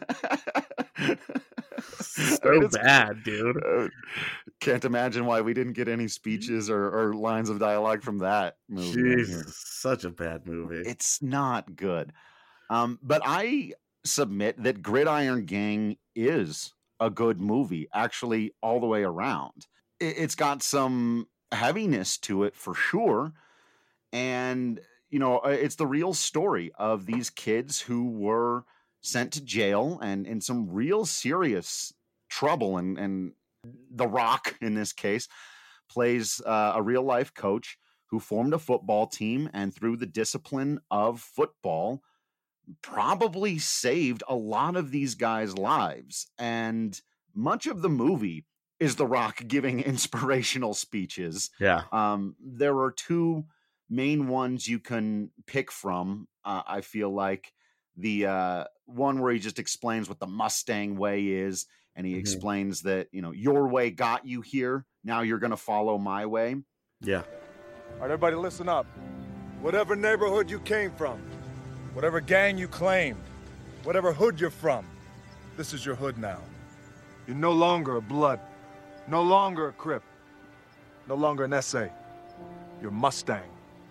S3: So
S1: It's-
S3: bad, dude.
S1: uh, can't imagine why we didn't get any speeches or, or lines of dialogue from that movie. in here.
S3: Jesus, such a bad movie.
S1: It's not good. Um, but I submit that Gridiron Gang is a good movie, actually, all the way around. It, it's got some heaviness to it for sure. And, you know, uh, it's the real story of these kids who were sent to jail and in some real serious trouble. And, and The Rock, in this case, plays uh, a real life coach who formed a football team and through the discipline of football probably saved a lot of these guys' lives. And much of the movie is The Rock giving inspirational speeches.
S3: Yeah.
S1: Um, there are two main ones you can pick from. Uh, I feel like the uh, one where he just explains what the Mustang way is, and he
S3: Mhm.
S1: explains that, you know, your way got you here. Now you're going to follow my way.
S3: Yeah.
S4: All right, everybody listen up. Whatever neighborhood you came from, whatever gang you claimed, whatever hood you're from, this is your hood now. You're no longer a Blood, no longer a Crip, no longer an S A. You're Mustang.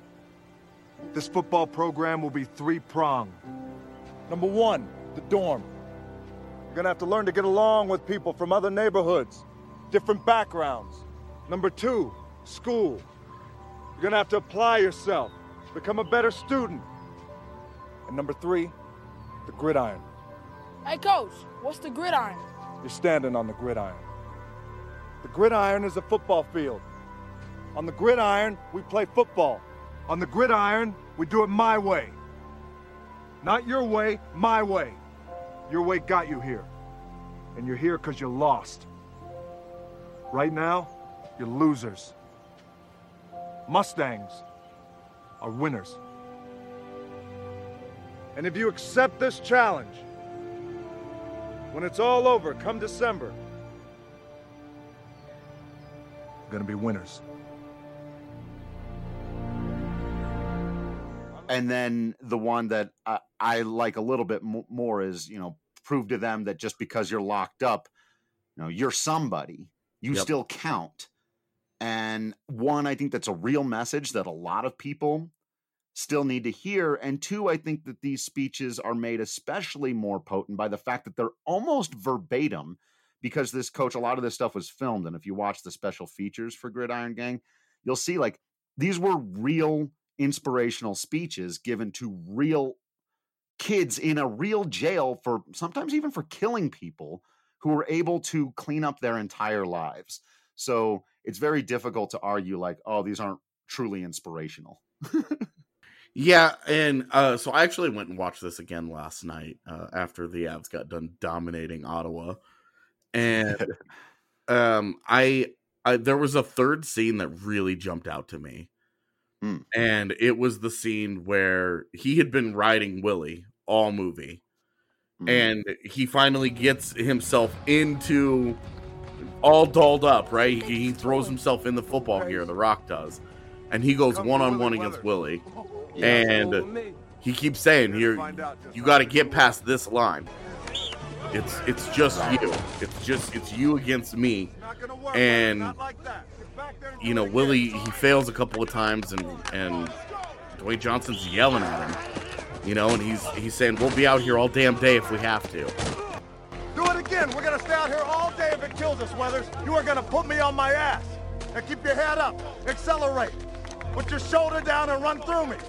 S4: This football program will be three-pronged. Number one, the dorm. You're gonna have to learn to get along with people from other neighborhoods, different backgrounds. Number two, school. You're gonna have to apply yourself, become a better student. And number three, the gridiron.
S20: Hey, Coach, what's the gridiron?
S4: You're standing on the gridiron. The gridiron is a football field. On the gridiron, we play football. On the gridiron, we do it my way. Not your way, my way. Your way got you here. And you're here because you're lost. Right now, you're losers. Mustangs are winners. And if you accept this challenge, when it's all over, come December, you're gonna be winners.
S1: And then the one that I, I like a little bit mo- more is, you know, prove to them that just because you're locked up, you know, you're somebody. You
S3: Yep.
S1: still count. And one, I think that's a real message that a lot of people still need to hear. And two, I think that these speeches are made especially more potent by the fact that they're almost verbatim, because this coach, a lot of this stuff was filmed. And if you watch the special features for Gridiron Gang, you'll see like these were real inspirational speeches given to real kids in a real jail for sometimes even for killing people, who were able to clean up their entire lives. So it's very difficult to argue like, oh, these aren't truly inspirational.
S3: Yeah, and uh, so I actually went and watched this again last night uh, after the Avs got done dominating Ottawa, and um, I, I there was a third scene that really jumped out to me,
S1: mm.
S3: and it was the scene where he had been riding Willie all movie, mm. and he finally gets himself into all dolled up, right? He, he throws himself in the football gear, The Rock does, and he goes one on one against Willie. And he keeps saying, "Here, you got to get past this line. It's it's just you. It's just it's you against me." And you know, Willie, he fails a couple of times, and and Dwayne Johnson's yelling at him. You know, and he's he's saying, "We'll be out here all damn day if we have to."
S4: Do it again. We're gonna stay out here all day if it kills us, Weathers. You are gonna put me on my ass. Now keep your head up. Accelerate. Put your shoulder down and run through me.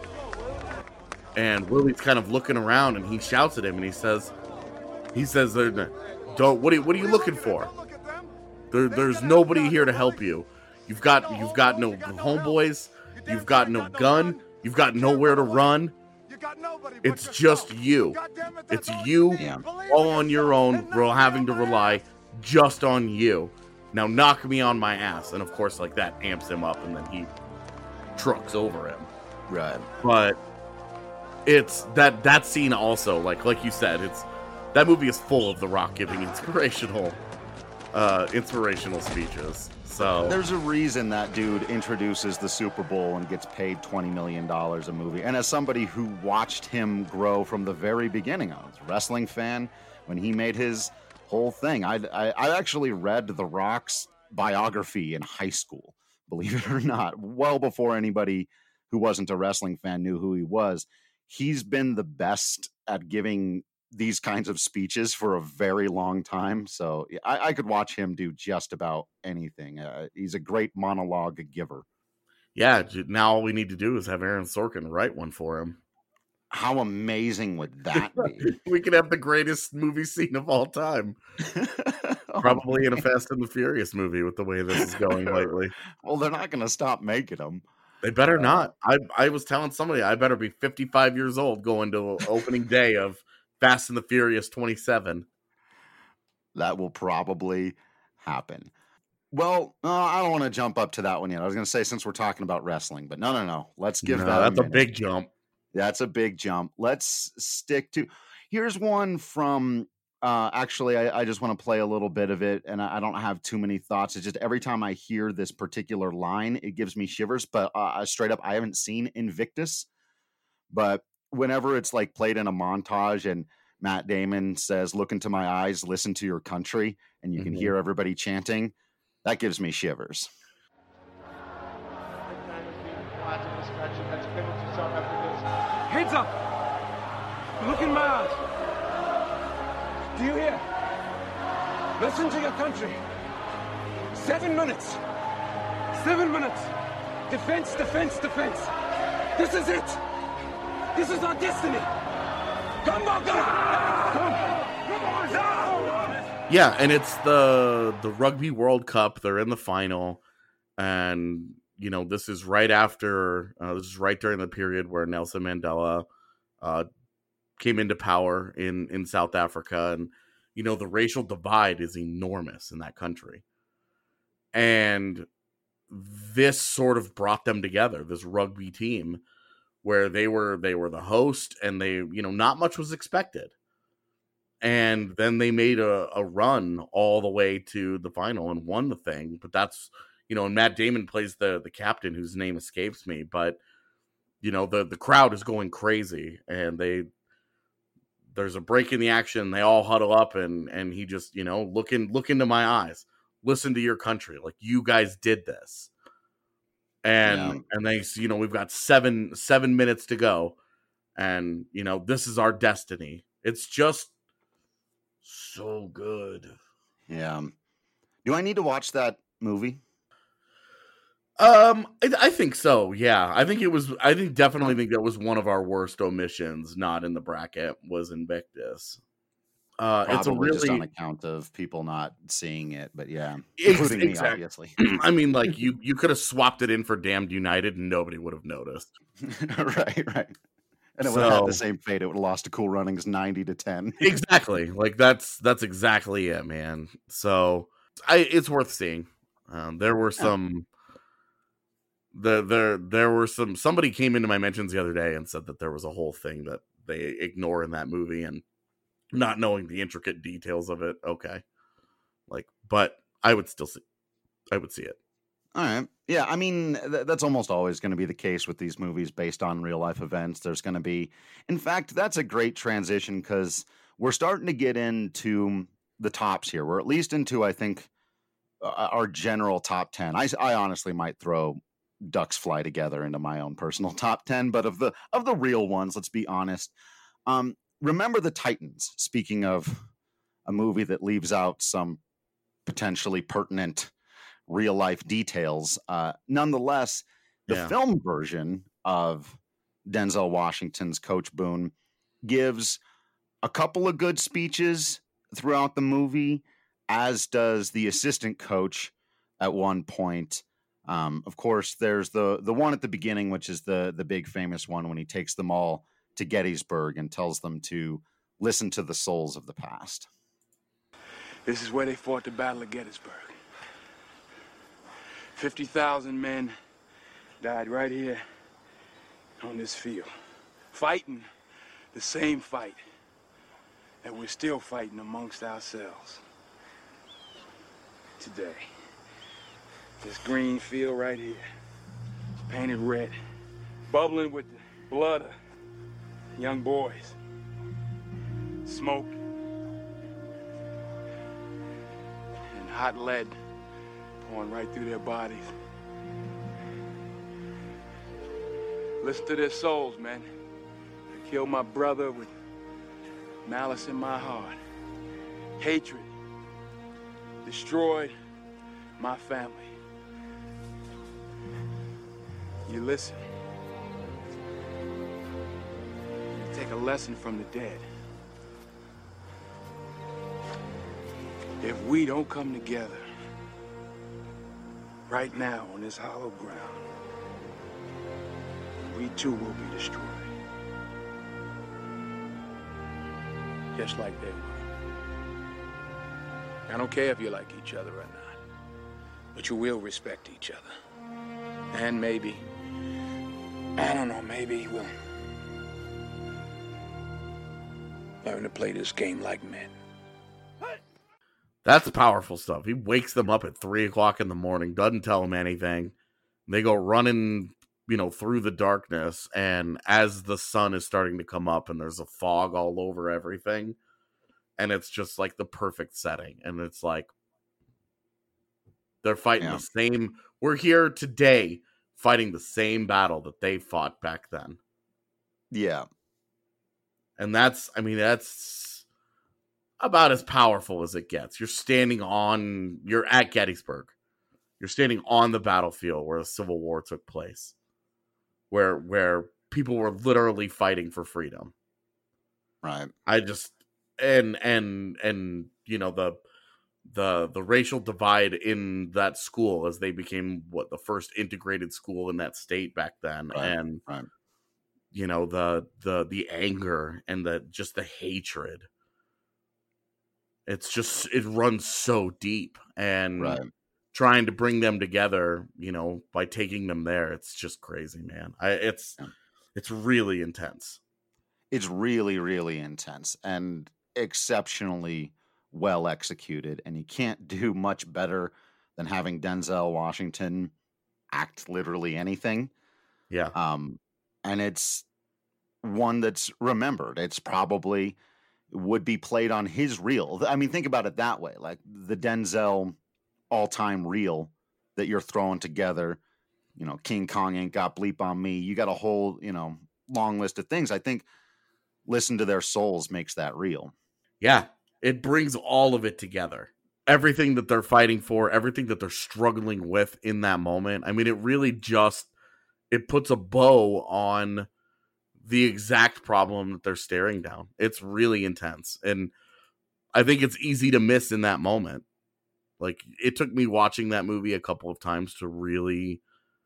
S3: And Willie's kind of looking around, and he shouts at him, and he says, "He says, don't. What are you, what are you looking for? There, there's nobody here to help you. You've got, you've got no homeboys. You've got no gun. You've got nowhere to run. It's just you. It's you all on your own. We're having to rely just on you. Now knock me on my ass." And of course, like that amps him up, and then he trucks over him.
S1: Right.
S3: But it's that that scene also, like like you said, it's that movie is full of The Rock giving inspirational uh inspirational speeches. So
S1: there's a reason that dude introduces the Super Bowl and gets paid twenty million dollars a movie. And as somebody who watched him grow from the very beginning, I was a wrestling fan when he made his whole thing. I I, I actually read The Rock's biography in high school, believe it or not, well before anybody who wasn't a wrestling fan knew who he was. He's been the best at giving these kinds of speeches for a very long time. So I, I could watch him do just about anything. Uh, he's a great monologue giver.
S3: Yeah, now all we need to do is have Aaron Sorkin write one for him.
S1: How amazing would that be?
S3: We could have the greatest movie scene of all time. Probably in a Fast and the Furious movie with the way this is going lately.
S1: Well, they're not going to stop making them.
S3: They better not. I I was telling somebody I better be fifty-five years old going to opening day of Fast and the Furious twenty-seven.
S1: That will probably happen. Well, uh, I don't want to jump up to that one yet. I was going to say, since we're talking about wrestling, but no, no, no. Let's give
S3: no,
S1: that
S3: that's
S1: a,
S3: a big jump.
S1: That's a big jump. Let's stick to. Here's one from. Uh, actually, I, I just want to play a little bit of it, and I, I don't have too many thoughts. It's just every time I hear this particular line, it gives me shivers. But uh, straight up, I haven't seen Invictus, but whenever it's like played in a montage and Matt Damon says, "Look into my eyes, listen to your country," and you mm-hmm. can hear everybody chanting, that gives me shivers.
S12: Heads up! Look in my eyes. Do you hear? Listen to your country. Seven minutes. Seven minutes. Defense, defense, defense. This is it. This is our destiny. Come on, come on. Come on.
S3: Yeah, and it's the the Rugby World Cup. They're in the final, and you know this is right after. Uh, this is right during the period where Nelson Mandela uh, came into power in in South Africa, and you know the racial divide is enormous in that country, and this sort of brought them together. This rugby team, where they were they were the host, and they you know not much was expected. And then they made a, a run all the way to the final and won the thing. But that's, you know, and Matt Damon plays the the captain whose name escapes me. But, you know, the, the crowd is going crazy. And they there's a break in the action. They all huddle up and and he just, you know, look, in, look into my eyes. Listen to your country. Like, you guys did this. And
S1: Yeah.
S3: and they, you know, we've got seven seven minutes to go, and you know, this is our destiny. It's just so good.
S1: Yeah. Do I need to watch that movie?
S3: Um, I, I think so. Yeah, I think it was. I think definitely think that was one of our worst omissions. Not in the bracket was Invictus. Uh,
S1: Probably
S3: it's a really
S1: just on account of people not seeing it, but yeah,
S3: Ex-
S1: including me,
S3: exact-
S1: obviously.
S3: I mean, like you, you could have swapped it in for Damned United, and nobody would have noticed.
S1: right, right. And it would have had the
S3: So-
S1: same fate. It would have lost to Cool Runnings ninety to ten.
S3: Exactly. Like that's that's exactly it, man. So I it's worth seeing. Um, there were some. The there there were some somebody came into my mentions the other day and said that there was a whole thing that they ignore in that movie, and not knowing the intricate details of it. Okay, like, but I would still see, I would see it.
S1: All right. Yeah, I mean, th- that's almost always going to be the case with these movies based on real life events. There's going to be, in fact, that's a great transition because we're starting to get into the tops here. We're at least into, I think, uh, our general top ten. I, I honestly might throw Ducks Fly Together into my own personal top ten, but of the of the real ones, let's be honest. Um, Remember the Titans, speaking of a movie that leaves out some potentially pertinent real life details. Uh, nonetheless, the
S3: Yeah.
S1: film version of Denzel Washington's Coach Boone gives a couple of good speeches throughout the movie, as does the assistant coach at one point. Um, of course, there's the the one at the beginning, which is the the big famous one when he takes them all to Gettysburg and tells them to listen to the souls of the past.
S5: This is where they fought the Battle of Gettysburg. fifty thousand men died right here on this field, fighting the same fight that we're still fighting amongst ourselves today. This green field right here, painted red, bubbling with the blood of young boys, smoke, and hot lead pouring right through their bodies. Listen to their souls, man. I killed my brother with malice in my heart, hatred, destroyed my family. You listen. You take a lesson from the dead. If we don't come together right now on this hollow ground, we too will be destroyed. Just like they were. I don't care if you like each other or not, but you will respect each other. And maybe, I don't know, maybe we'll learn to play this game like men.
S3: That's powerful stuff. He wakes them up at three o'clock in the morning, doesn't tell them anything. They go running, you know, through the darkness, and as the sun is starting to come up and there's a fog all over everything, and it's just like the perfect setting. And it's like they're fighting
S1: Yeah.
S3: the same. We're here today fighting the same battle that they fought back then.
S1: Yeah.
S3: And that's, I mean, that's about as powerful as it gets. You're standing on, you're at Gettysburg. You're standing on the battlefield where the Civil War took place, where where people were literally fighting for freedom.
S1: Right.
S3: I just and and and you know the the the racial divide in that school as they became what the first integrated school in that state back then,
S1: Right,
S3: and
S1: right.
S3: you know the the the anger and the just the hatred. It's just it runs so deep, and
S1: Right.
S3: trying to bring them together, you know, by taking them there, it's just crazy, man. I it's it's really intense.
S1: It's really, really intense and exceptionally well executed. And you can't do much better than having Denzel Washington act literally anything.
S3: Yeah.
S1: Um, and it's one that's remembered. It's probably would be played on his reel. I mean, think about it that way. Like the Denzel all-time reel that you're throwing together you know, King Kong ain't got bleep on me. You got a whole, you know, long list of things. I think listen to their souls makes that real.
S3: Yeah, it brings all of it together. Everything that they're fighting for, everything that they're struggling with in that moment. I mean, it really just, it puts a bow on the exact problem that they're staring down. It's really intense. And I think it's easy to miss in that moment. Like, it took me watching that movie a couple of times to really,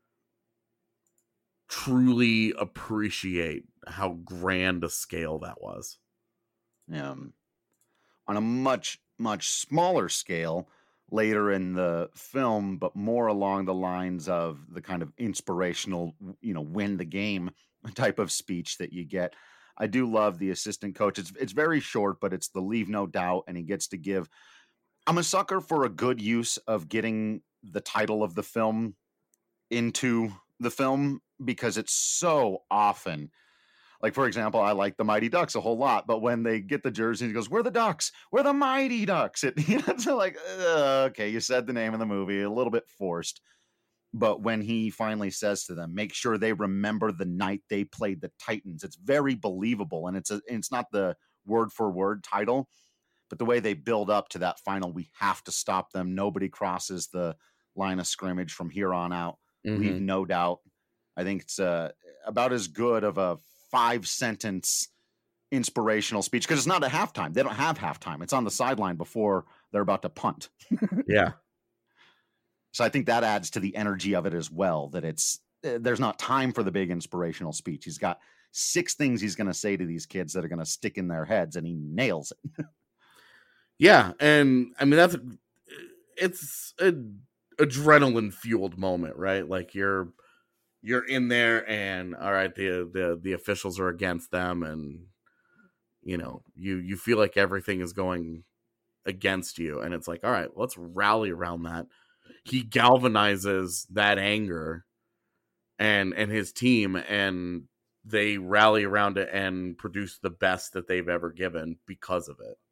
S3: truly appreciate how grand a scale that was.
S1: Um, on a much, much smaller scale later in the film, but more along the lines of the kind of inspirational, you know, win the game type of speech that you get. I do love the assistant coach. It's it's very short, but it's the leave no doubt, and he gets to give. I'm a sucker for a good use of getting the title of the film into the film because it's so often. Like, for example, I like the Mighty Ducks a whole lot, but when they get the jersey, he goes, "We're the Ducks. We're the Mighty Ducks." It, you know, it's like, uh, okay, you said the name of the movie, a little bit forced. But when he finally says to them, make sure they remember the night they played the Titans, it's very believable. And it's a, it's not the word for word title, but the way they build up to that final, we have to stop them. Nobody crosses the line of scrimmage from here on out.
S3: Mm-hmm.
S1: Leave no doubt. I think it's uh, about as good of a five sentence inspirational speech because it's not a halftime. They don't have halftime. It's on the sideline before they're about to punt.
S3: Yeah.
S1: So I think that adds to the energy of it as well, that it's, uh, there's not time for the big inspirational speech. He's got six things he's going to say to these kids that are going to stick in their heads, and he nails it.
S3: Yeah. And I mean, that's, it's an adrenaline fueled moment, right? Like you're, you're in there and all right, the, the, the officials are against them. And, you know, you, you feel like everything is going against you. And it's like, all right, let's rally around that. He galvanizes that anger and and his team, and they rally around it and produce the best that they've ever given because of it.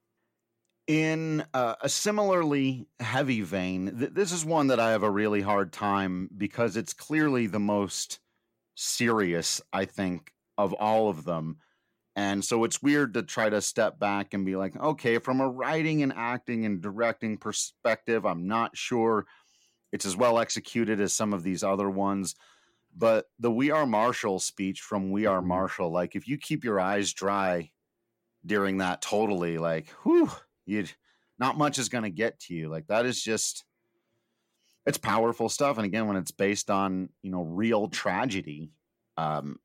S1: In uh, a similarly heavy vein, th- this is one that I have a really hard time because it's clearly the most serious, I think, of all of them. And so it's weird to try to step back and be like, okay, from a writing and acting and directing perspective, I'm not sure it's as well executed as some of these other ones. But the We Are Marshall speech from We Are Marshall, like if you keep your eyes dry during that, totally, like, whew, you'd, not much is going to get to you. Like that is just, it's powerful stuff. And again, when it's based on, you know, real tragedy, um,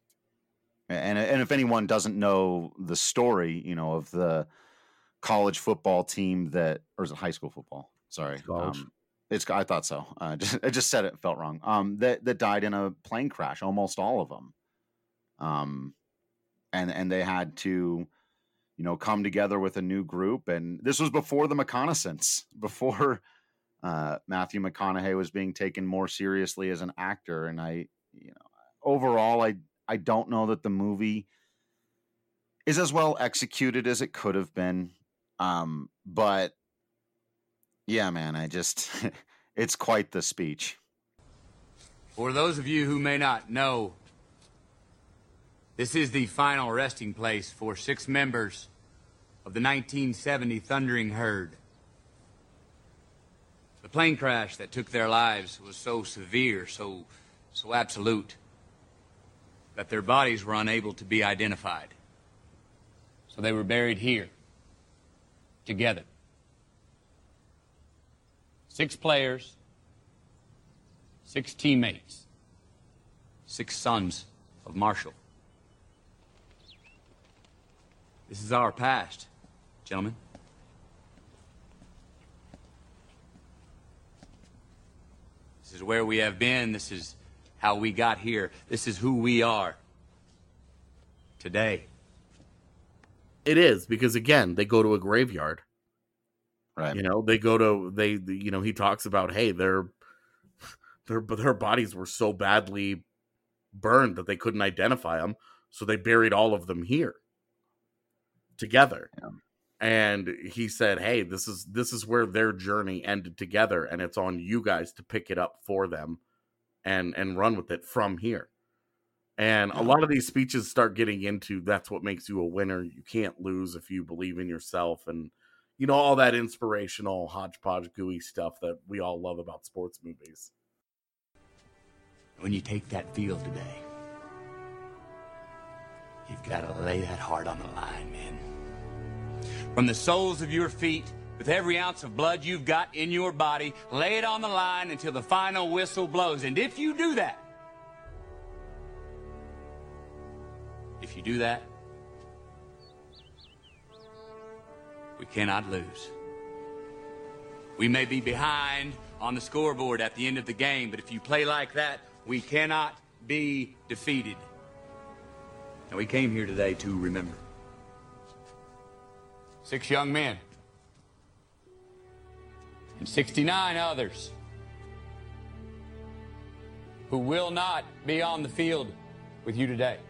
S1: And and if anyone doesn't know the story, you know, of the college football team that, or is it high school football? Sorry, um, it's I thought so. Uh, just, I just said it, felt wrong. Um, that that died in a plane crash. Almost all of them. Um, and and they had to, you know, come together with a new group. And this was before the reconnaissance, before uh, Matthew McConaughey was being taken more seriously as an actor. And I, you know, overall, I. I don't know that the movie is as well executed as it could have been. Um, but yeah, man, I just, it's quite the speech.
S8: For those of you who may not know, this is the final resting place for six members of the nineteen seventy Thundering Herd. The plane crash that took their lives was so severe, so, so absolute, that their bodies were unable to be identified. So they were buried here, together. Six players, six teammates, six sons of Marshall. This is our past, gentlemen. This is where we have been. This is how we got here. This is who we are today.
S3: It is, because again, they go to a graveyard.
S1: Right.
S3: You know, they go to, they, you know, he talks about, hey, their, their, their bodies were so badly burned that they couldn't identify them. So they buried all of them here together.
S1: Yeah.
S3: And he said, hey, this is, this is where their journey ended together. And it's on you guys to pick it up for them and and run with it from here. And a lot of these speeches start getting into that's what makes you a winner. You can't lose if you believe in yourself, and you know, all that inspirational hodgepodge gooey stuff that we all love about sports movies.
S8: When you take that field today, you've got to lay that heart on the line, man. From the soles of your feet, with every ounce of blood you've got in your body, lay it on the line until the final whistle blows. And if you do that, if you do that, we cannot lose. We may be behind on the scoreboard at the end of the game, but if you play like that, we cannot be defeated. And we came here today to remember. Six young men and sixty-nine others who will not be on the field with you today.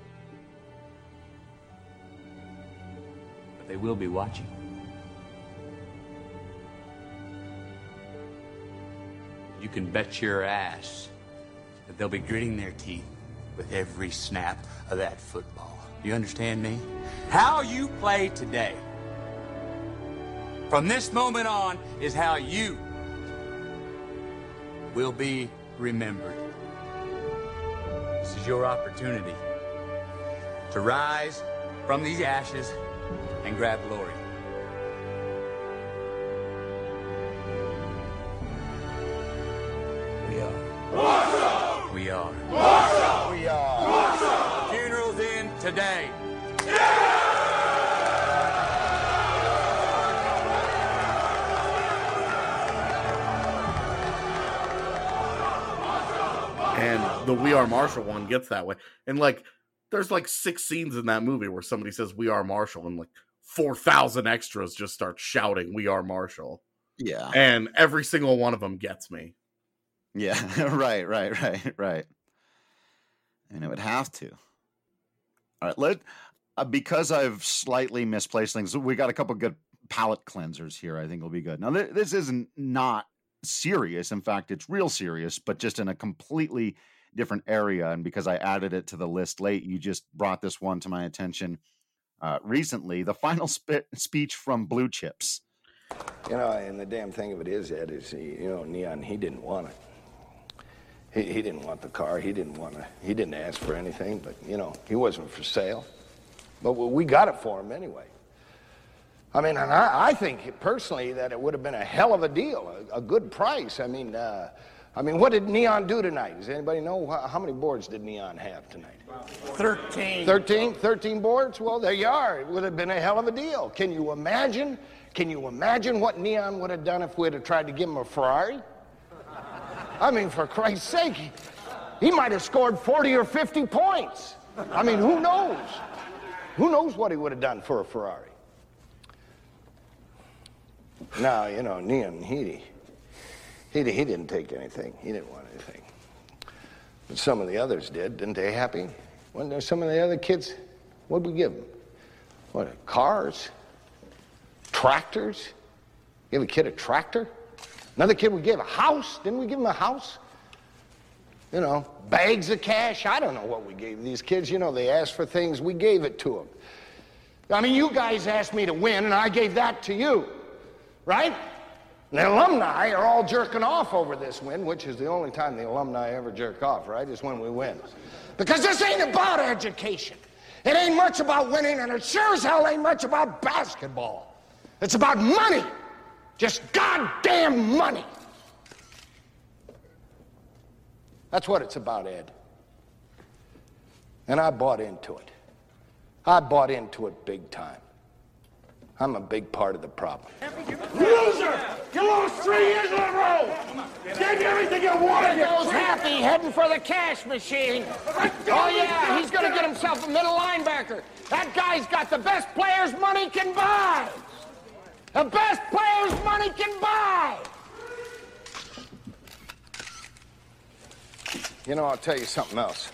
S8: But they will be watching. You can bet your ass that they'll be gritting their teeth with every snap of that football. You understand me? How you play today, from this moment on, is how you will be remembered. This is your opportunity to rise from these ashes and grab glory. We are. Marshall! We are. Marshall! We are. Marshall! Funeral's in today.
S3: And the We Are Marshall one gets that way. And like, there's like six scenes in that movie where somebody says We Are Marshall, and like four thousand extras just start shouting We Are Marshall.
S1: Yeah.
S3: And every single one of them gets me.
S1: Yeah, right, right, right, right. And it would have to. All right, let uh, because I've slightly misplaced things, we got a couple good palate cleansers here. I think will be good. Now, th- this isn't not serious. In fact, it's real serious, but just in a completely different area. And because I added it to the list late, you just brought this one to my attention uh, recently. The final sp- speech from Blue Chips.
S9: You know, and the damn thing of it is, Ed, is he, you know, Neon, he didn't want it. He, he didn't want the car. He didn't want to. He didn't ask for anything. But you know, he wasn't for sale. But we got it for him anyway. I mean, and I, I think personally that it would have been a hell of a deal, a, a good price. I mean, uh, I mean, what did Neon do tonight? Does anybody know how, how many boards did Neon have tonight?
S22: Thirteen.
S9: Thirteen. Thirteen boards. Well, there you are. It would have been a hell of a deal. Can you imagine? Can you imagine what Neon would have done if we had tried to give him a Ferrari? I mean, for Christ's sake, he, he might have scored forty or fifty points. I mean, who knows? Who knows what he would have done for a Ferrari? Now, you know, Neon, he, he, he didn't take anything. He didn't want anything. But some of the others did. Didn't they happy? When there's some of the other kids, what'd we give them? What, cars? Tractors? Give a kid a tractor? Another kid we gave a house? Didn't we give him a house? You know, bags of cash? I don't know what we gave these kids. You know, they asked for things, we gave it to them. I mean, you guys asked me to win, and I gave that to you, right? And the alumni are all jerking off over this win, which is the only time the alumni ever jerk off, right, is when we win. Because this ain't about education. It ain't much about winning, and it sure as hell ain't much about basketball. It's about money. Just goddamn money. That's what it's about, Ed. And I bought into it. I bought into it big time. I'm a big part of the problem.
S22: Loser! You lost three years in a row! Gave you everything you wanted!
S9: He goes happy, heading for the cash machine. Oh, yeah, he's gonna get himself a middle linebacker. That guy's got the best players money can buy. The best players money can buy. You know, I'll tell you something else.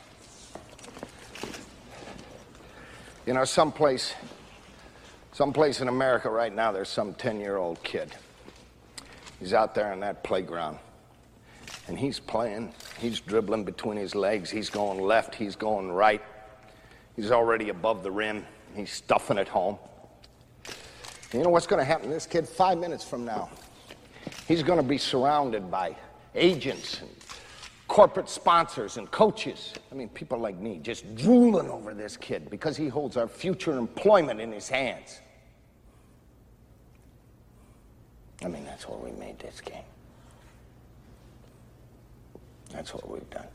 S9: You know, someplace, someplace in America right now, there's some ten-year-old kid. He's out there on that playground, and he's playing He's dribbling between his legs. He's going left. He's going right. He's already above the rim. He's stuffing it home. You know what's going to happen to this kid five minutes from now? He's going to be surrounded by agents and corporate sponsors and coaches. I mean, people like me just drooling over this kid because he holds our future employment in his hands. I mean, that's why we made this game. That's what we've done.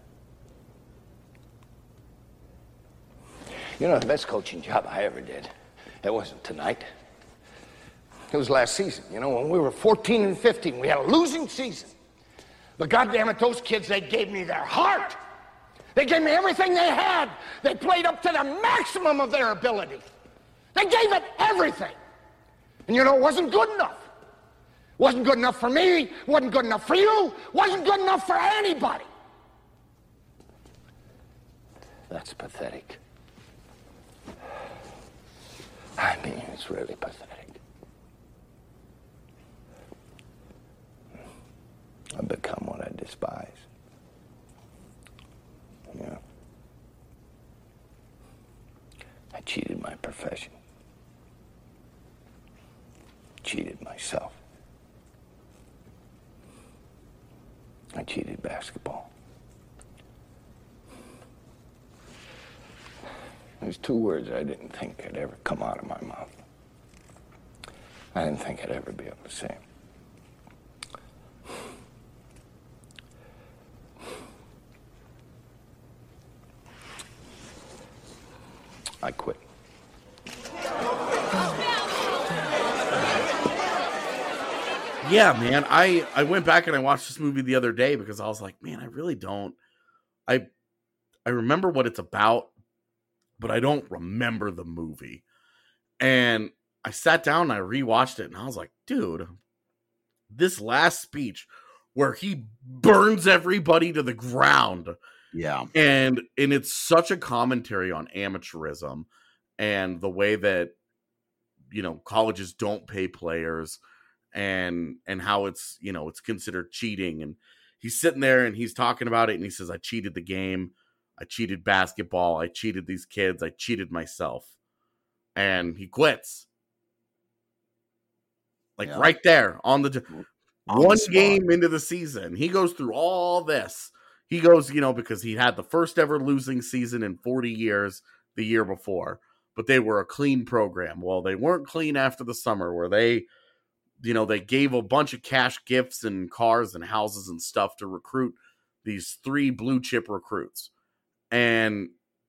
S9: You know, the best coaching job I ever did, it wasn't tonight. It was last season. You know, when we were fourteen and fifteen, we had a losing season. But goddammit, those kids, they gave me their heart. They gave me everything they had. They played up to the maximum of their ability. They gave it everything. And you know, it wasn't good enough. Wasn't good enough for me, wasn't good enough for you, wasn't good enough for anybody. That's pathetic. I mean, it's really pathetic. I've become what I despise. Yeah. I cheated my profession. Cheated myself. I cheated basketball. There's two words I didn't think could ever come out of my mouth. I didn't think I'd ever be able to say them. I quit.
S3: Yeah, man. I, I went back and I watched this movie the other day because I was like, man, I really don't. I I remember what it's about, but I don't remember the movie. And I sat down and I rewatched it and I was like, dude, this last speech where he burns everybody to the ground.
S1: Yeah.
S3: And and it's such a commentary on amateurism and the way that, you know, colleges don't pay players and and how it's, you know, it's considered cheating. And he's sitting there and he's talking about it and he says, I cheated the game. I cheated basketball. I cheated these kids. I cheated myself. And he quits. Like yeah. right there on the on one the game into the season. He goes through all this. He goes, you know, because he had the first ever losing season in forty years the year before, but they were a clean program. Well, they weren't clean after the summer where they, you know, they gave a bunch of cash gifts and cars and houses and stuff to recruit these three blue chip recruits. And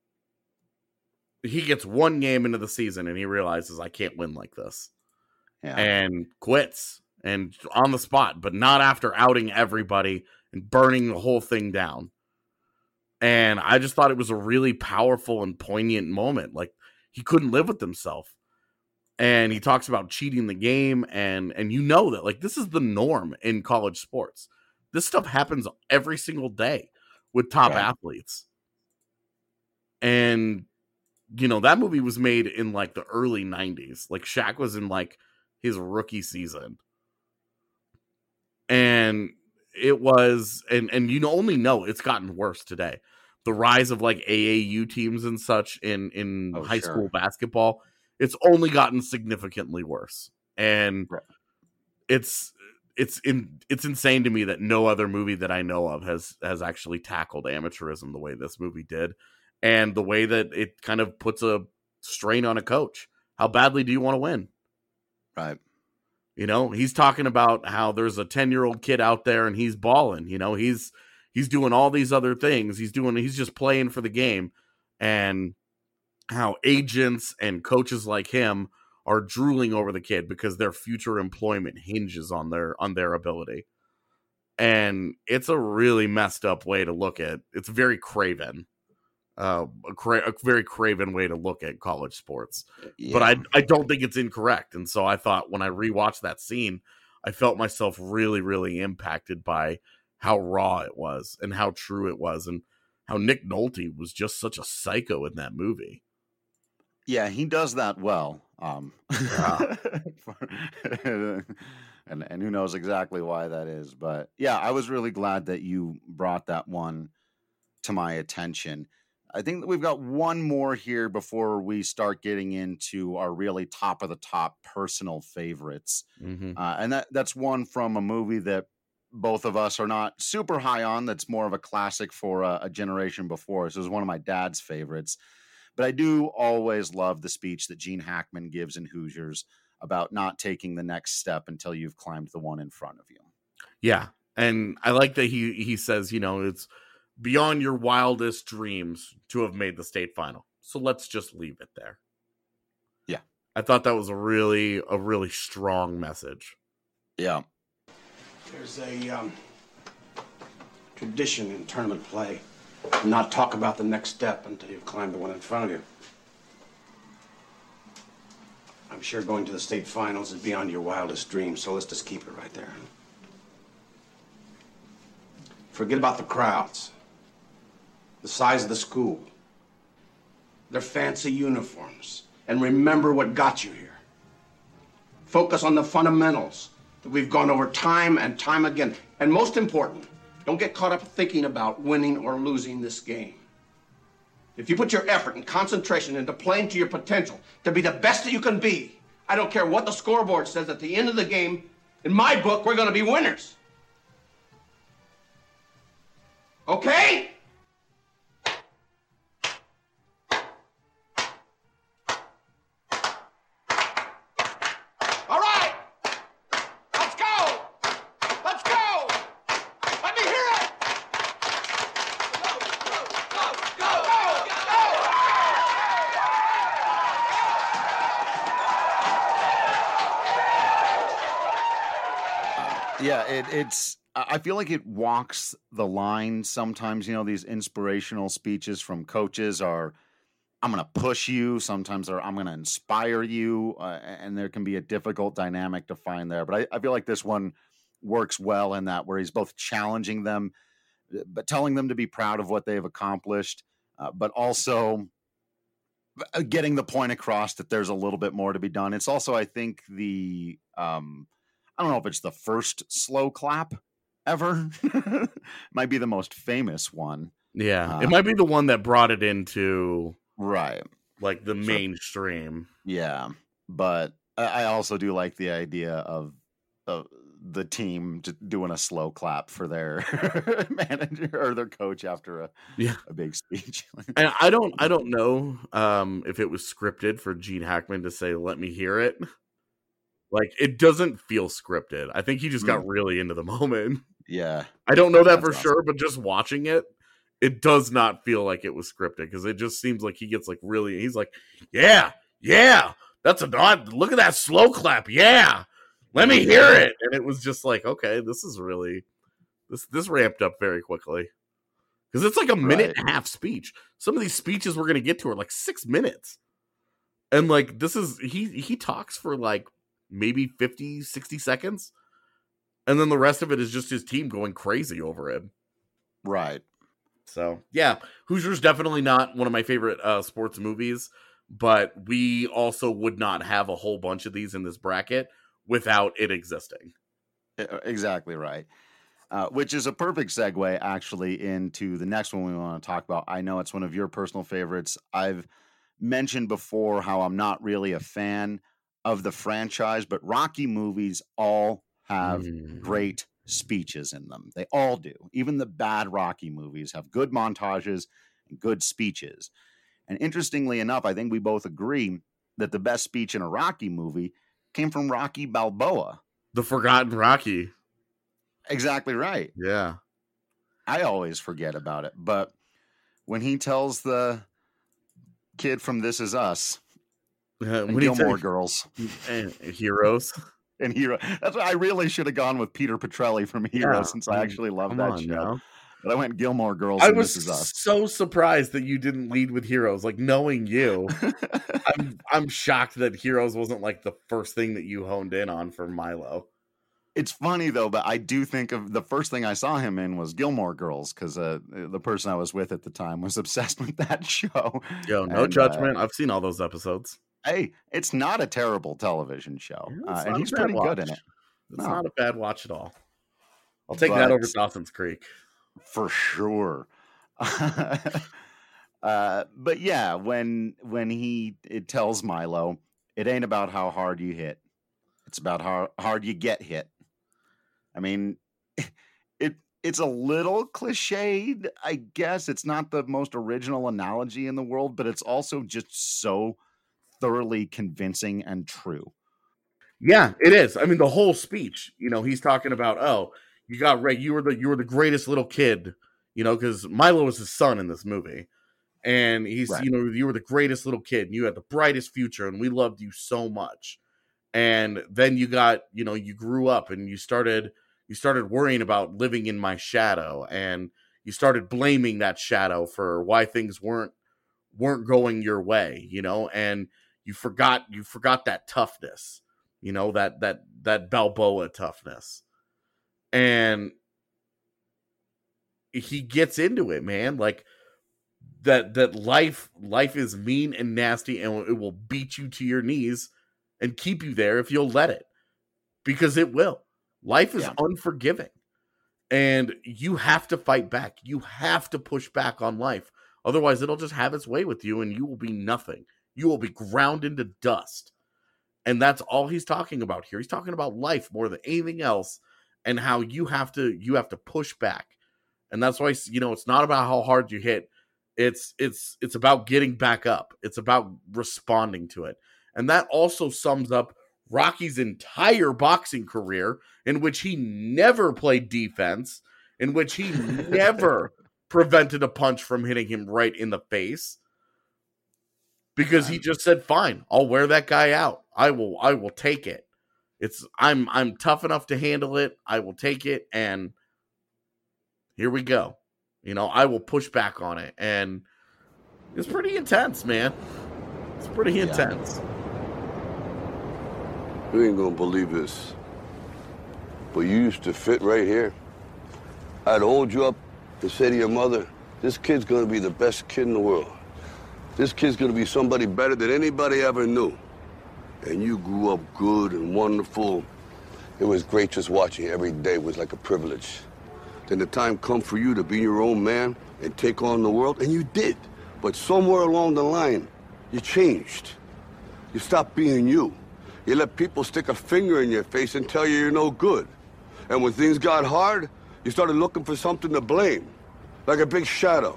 S3: he gets one game into the season and he realizes I can't win like this yeah. and quits and on the spot, but not after outing everybody and burning the whole thing down. And I just thought it was a really powerful and poignant moment. Like he couldn't live with himself. And he talks about cheating the game. And, and you know that like, this is the norm in college sports. This stuff happens every single day with top right. athletes. And, you know, that movie was made in like the early nineties. Like Shaq was in like his rookie season. And it was, and, and you only know it's gotten worse today. The rise of like A A U teams and such in, in oh, high sure. school basketball, it's only gotten significantly worse. And right. it's, it's in, it's insane to me that no other movie that I know of has, has actually tackled amateurism the way this movie did. And the way that it kind of puts a strain on a coach. How badly do you want to win?
S1: Right.
S3: You know, he's talking about how there's a ten-year-old kid out there and he's balling. You know, he's he's doing all these other things. He's doing he's just playing for the game. And how agents and coaches like him are drooling over the kid because their future employment hinges on their on their ability. And it's a really messed up way to look at. It's very craven. Uh, a, cra- a very craven way to look at college sports, yeah. but I I don't think it's incorrect. And so I thought when I rewatched that scene, I felt myself really, really impacted by how raw it was and how true it was and how Nick Nolte was just such a psycho in that movie.
S1: Yeah, he does that well. Um, yeah. and and who knows exactly why that is. But yeah, I was really glad that you brought that one to my attention. I think that we've got one more here before we start getting into our really top of the top personal favorites.
S3: Mm-hmm.
S1: Uh, and that that's one from a movie that both of us are not super high on. That's more of a classic for a, a generation before us. It was one of my dad's favorites. But I do always love the speech that Gene Hackman gives in Hoosiers about not taking the next step until you've climbed the one in front of you.
S3: Yeah. And I like that he he says, you know, it's beyond your wildest dreams to have made the state final. So let's just leave it there.
S1: Yeah.
S3: I thought that was a really, a really strong message.
S1: Yeah.
S7: There's a um, tradition in tournament play. Not talk about the next step until you've climbed the one in front of you. I'm sure going to the state finals is beyond your wildest dreams, so let's just keep it right there. Forget about the crowds. The size of the school, their fancy uniforms, and remember what got you here. Focus on the fundamentals that we've gone over time and time again. And most important, don't get caught up thinking about winning or losing this game. If you put your effort and concentration into playing to your potential, to be the best that you can be, I don't care what the scoreboard says at the end of the game, in my book, we're going to be winners. Okay?
S1: Yeah, it, it's, I feel like it walks the line sometimes. You know, these inspirational speeches from coaches are, I'm going to push you. Sometimes they're, I'm going to inspire you. Uh, and there can be a difficult dynamic to find there. But I, I feel like this one works well in that, where he's both challenging them, but telling them to be proud of what they've accomplished, uh, but also getting the point across that there's a little bit more to be done. It's also, I think, the, um, I don't know if it's the first slow clap ever. Might be the most famous one.
S3: Yeah.
S1: Uh,
S3: it might be the one that brought it into
S1: right,
S3: like the
S1: sure.
S3: mainstream.
S1: Yeah. But I also do like the idea of, of the team just doing a slow clap for their manager or their coach after a,
S3: yeah.
S1: a big speech.
S3: And I don't, I don't know um, if it was scripted for Gene Hackman to say, "Let me hear it." Like, it doesn't feel scripted. I think he just got really into the moment.
S1: Yeah.
S3: I don't know that
S1: That's
S3: for
S1: awesome.
S3: sure, but just watching it, it does not feel like it was scripted, because it just seems like he gets like really, he's like, yeah, yeah, that's a dot. Look at that slow clap. Yeah. Let me hear it. And it was just like, okay, this is really, this, this ramped up very quickly. Because it's like a minute
S1: Right.
S3: and a half speech. Some of these speeches we're going to get to are like six minutes. And like, this is, he, he talks for like, maybe fifty, sixty seconds. And then the rest of it is just his team going crazy over it.
S1: Right.
S3: So, yeah, Hoosiers definitely not one of my favorite uh, sports movies, but we also would not have a whole bunch of these in this bracket without it existing.
S1: Exactly right. Uh, which is a perfect segue, actually, into the next one we want to talk about. I know it's one of your personal favorites. I've mentioned before how I'm not really a fan of the franchise, but Rocky movies all have
S3: Mm.
S1: great speeches in them. They all do. Even the bad Rocky movies have good montages and good speeches. And interestingly enough, I think we both agree that the best speech in a Rocky movie came from Rocky Balboa.
S3: The Forgotten Rocky.
S1: Exactly right.
S3: Yeah.
S1: I always forget about it. But when he tells the kid from This Is Us,
S3: Uh,
S1: and
S3: when he
S1: Gilmore
S3: said-
S1: Girls,
S3: and Heroes,
S1: and Hero. That's why I really should have gone with Peter Petrelli from Heroes,
S3: Yeah,
S1: since
S3: I
S1: I
S3: mean,
S1: actually love
S3: come
S1: that
S3: on
S1: show.
S3: now.
S1: But I went Gilmore Girls.
S3: I
S1: and
S3: was
S1: This Is Us.
S3: so surprised that you didn't lead with Heroes. Like, knowing you, I'm I'm shocked that Heroes wasn't like the first thing that you honed in on for Milo.
S1: It's funny though, but I do think of the first thing I saw him in was Gilmore Girls, because uh, the person I was with at the time was obsessed with that show.
S3: Yo, no
S1: And, uh,
S3: judgment. I've seen all those episodes.
S1: hey, it's not a terrible television show,
S3: It's
S1: uh,
S3: not
S1: and
S3: a
S1: he's
S3: bad
S1: pretty
S3: watch.
S1: good in it.
S3: It's
S1: No.
S3: not a bad watch at all. I'll take
S1: But-
S3: that over Dawson's Creek.
S1: For sure. uh, but yeah, when when he it tells Milo, it ain't about how hard you hit. It's about how hard you get hit. I mean, it it's a little cliched, I guess. It's not the most original analogy in the world, but it's also just so thoroughly convincing and true.
S3: Yeah, it is. I mean, the whole speech, you know, he's talking about, oh, you got Ray, you were the you were the greatest little kid, you know, because Milo was his son in this movie. And he's,
S1: Right.
S3: you know, you were the greatest little kid, and you had the brightest future, and we loved you so much. And then you got, you know, you grew up and you started you started worrying about living in my shadow, and you started blaming that shadow for why things weren't weren't going your way, you know, and you forgot you forgot that toughness, you know, that that that Balboa toughness. And he gets into it, man, like that that life life is mean and nasty, and it will beat you to your knees and keep you there if you'll let it, because it will. Life is
S1: Yeah.
S3: unforgiving, and you have to fight back. You have to push back on life. Otherwise, it'll just have its way with you, and you will be nothing. You will be ground into dust. And that's all he's talking about here. He's talking about life more than anything else, and how you have to you have to push back. And that's why, you know, it's not about how hard you hit. It's it's it's about getting back up. It's about responding to it. And that also sums up Rocky's entire boxing career, in which he never played defense, in which he never prevented a punch from hitting him right in the face, because he just said, fine, I'll wear that guy out. I will I will take it. It's I'm I'm tough enough to handle it. I will take it, and here we go. You know, I will push back on it. And it's pretty intense, man. It's pretty
S10: Yeah.
S3: intense.
S10: You ain't gonna believe this, but you used to fit right here. I'd hold you up and say to your mother, this kid's gonna be the best kid in the world. This kid's gonna be somebody better than anybody ever knew. And you grew up good and wonderful. It was great just watching you every day. It was like a privilege. Then the time come for you to be your own man and take on the world, and you did. But somewhere along the line, you changed. You stopped being you. You let people stick a finger in your face and tell you you're no good. And when things got hard, you started looking for something to blame, like a big shadow.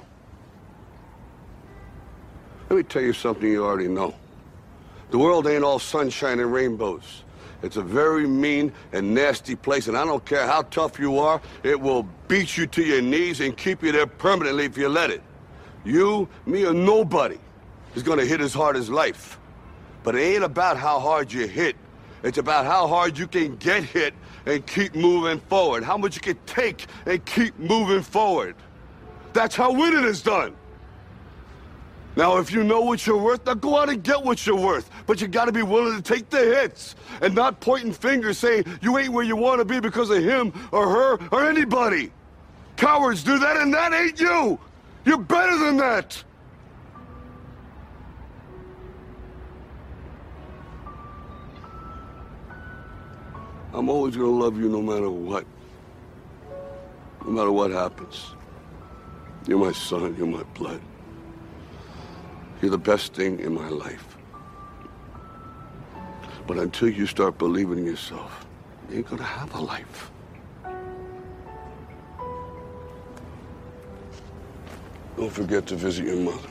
S10: Let me tell you something you already know. The world ain't all sunshine and rainbows. It's a very mean and nasty place, and I don't care how tough you are, it will beat you to your knees and keep you there permanently if you let it. You, me, or nobody is gonna hit as hard as life. But it ain't about how hard you hit. It's about how hard you can get hit and keep moving forward. How much you can take and keep moving forward. That's how winning is done. Now, if you know what you're worth, now go out and get what you're worth. But you gotta be willing to take the hits and not pointing fingers saying you ain't where you wanna be because of him or her or anybody. Cowards do that, and that ain't you. You're better than that. I'm always gonna love you no matter what. No matter what happens. You're my son, you're my blood. You're the best thing in my life. But until you start believing in yourself, you ain't gonna have a life. Don't forget to visit your mother.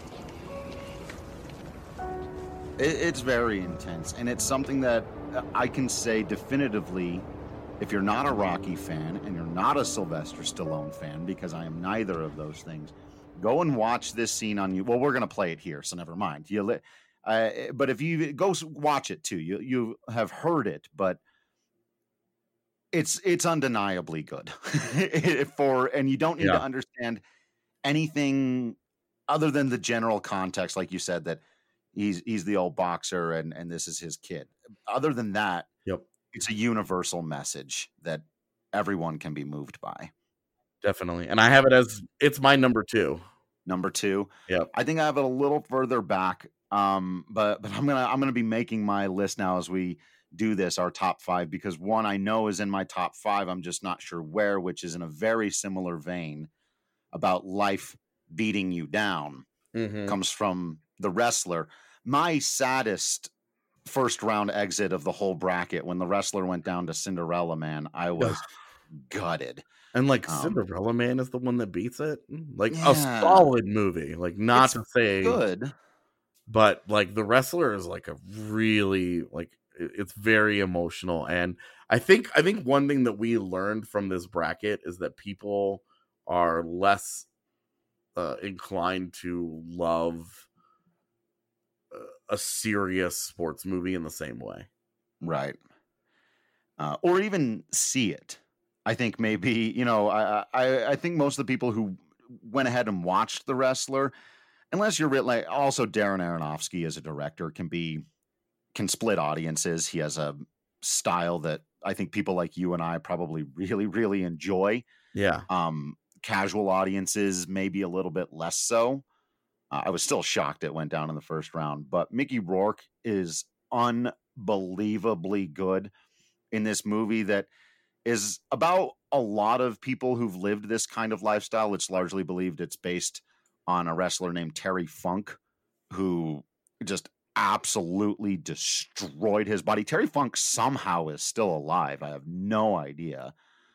S1: It, it's very intense, and it's something that I can say definitively, if you're not a Rocky fan and you're not a Sylvester Stallone fan, because I am neither of those things, go and watch this scene on you. Well, we're going to play it here, so never mind. You, li- uh, but if you go s- watch it too, you you have heard it, but it's it's undeniably good for, and you don't need
S3: Yeah.
S1: to understand anything other than the general context, like you said, that he's he's the old boxer and and this is his kid. Other than that,
S3: yep,
S1: it's a universal message that everyone can be moved by.
S3: Definitely. And I have it as, it's my number two.
S1: Number two.
S3: Yep.
S1: I think I have it a little further back. Um, but but I'm gonna I'm gonna be making my list now as we do this, our top five, because one I know is in my top five. I'm just not sure where, which is in a very similar vein about life beating you down.
S3: Mhm.
S1: Comes from The Wrestler. My saddest first round exit of the whole bracket, when The Wrestler went down to Cinderella Man, I was gutted.
S3: And like
S1: Um,
S3: Cinderella Man is the one that beats it. Like a
S1: Yeah.
S3: solid movie. Like not
S1: It's
S3: to say
S1: good.
S3: but like The Wrestler is like a really like it- it's very emotional. And I think I think one thing that we learned from this bracket is that people are less uh, inclined to love uh, a serious sports movie in the same way.
S1: Right. Uh, or even see it. I think maybe, you know, I, I I think most of the people who went ahead and watched The Wrestler, unless you're real, like also Darren Aronofsky as a director can be can split audiences. He has a style that I think people like you and I probably really really enjoy.
S3: Yeah.
S1: Um, casual audiences maybe a little bit less so. Uh, I was still shocked it went down in the first round, but Mickey Rourke is unbelievably good in this movie that is about a lot of people who've lived this kind of lifestyle. It's largely believed it's based on a wrestler named Terry Funk, who just absolutely destroyed his body. Terry Funk somehow is still alive. I have no idea.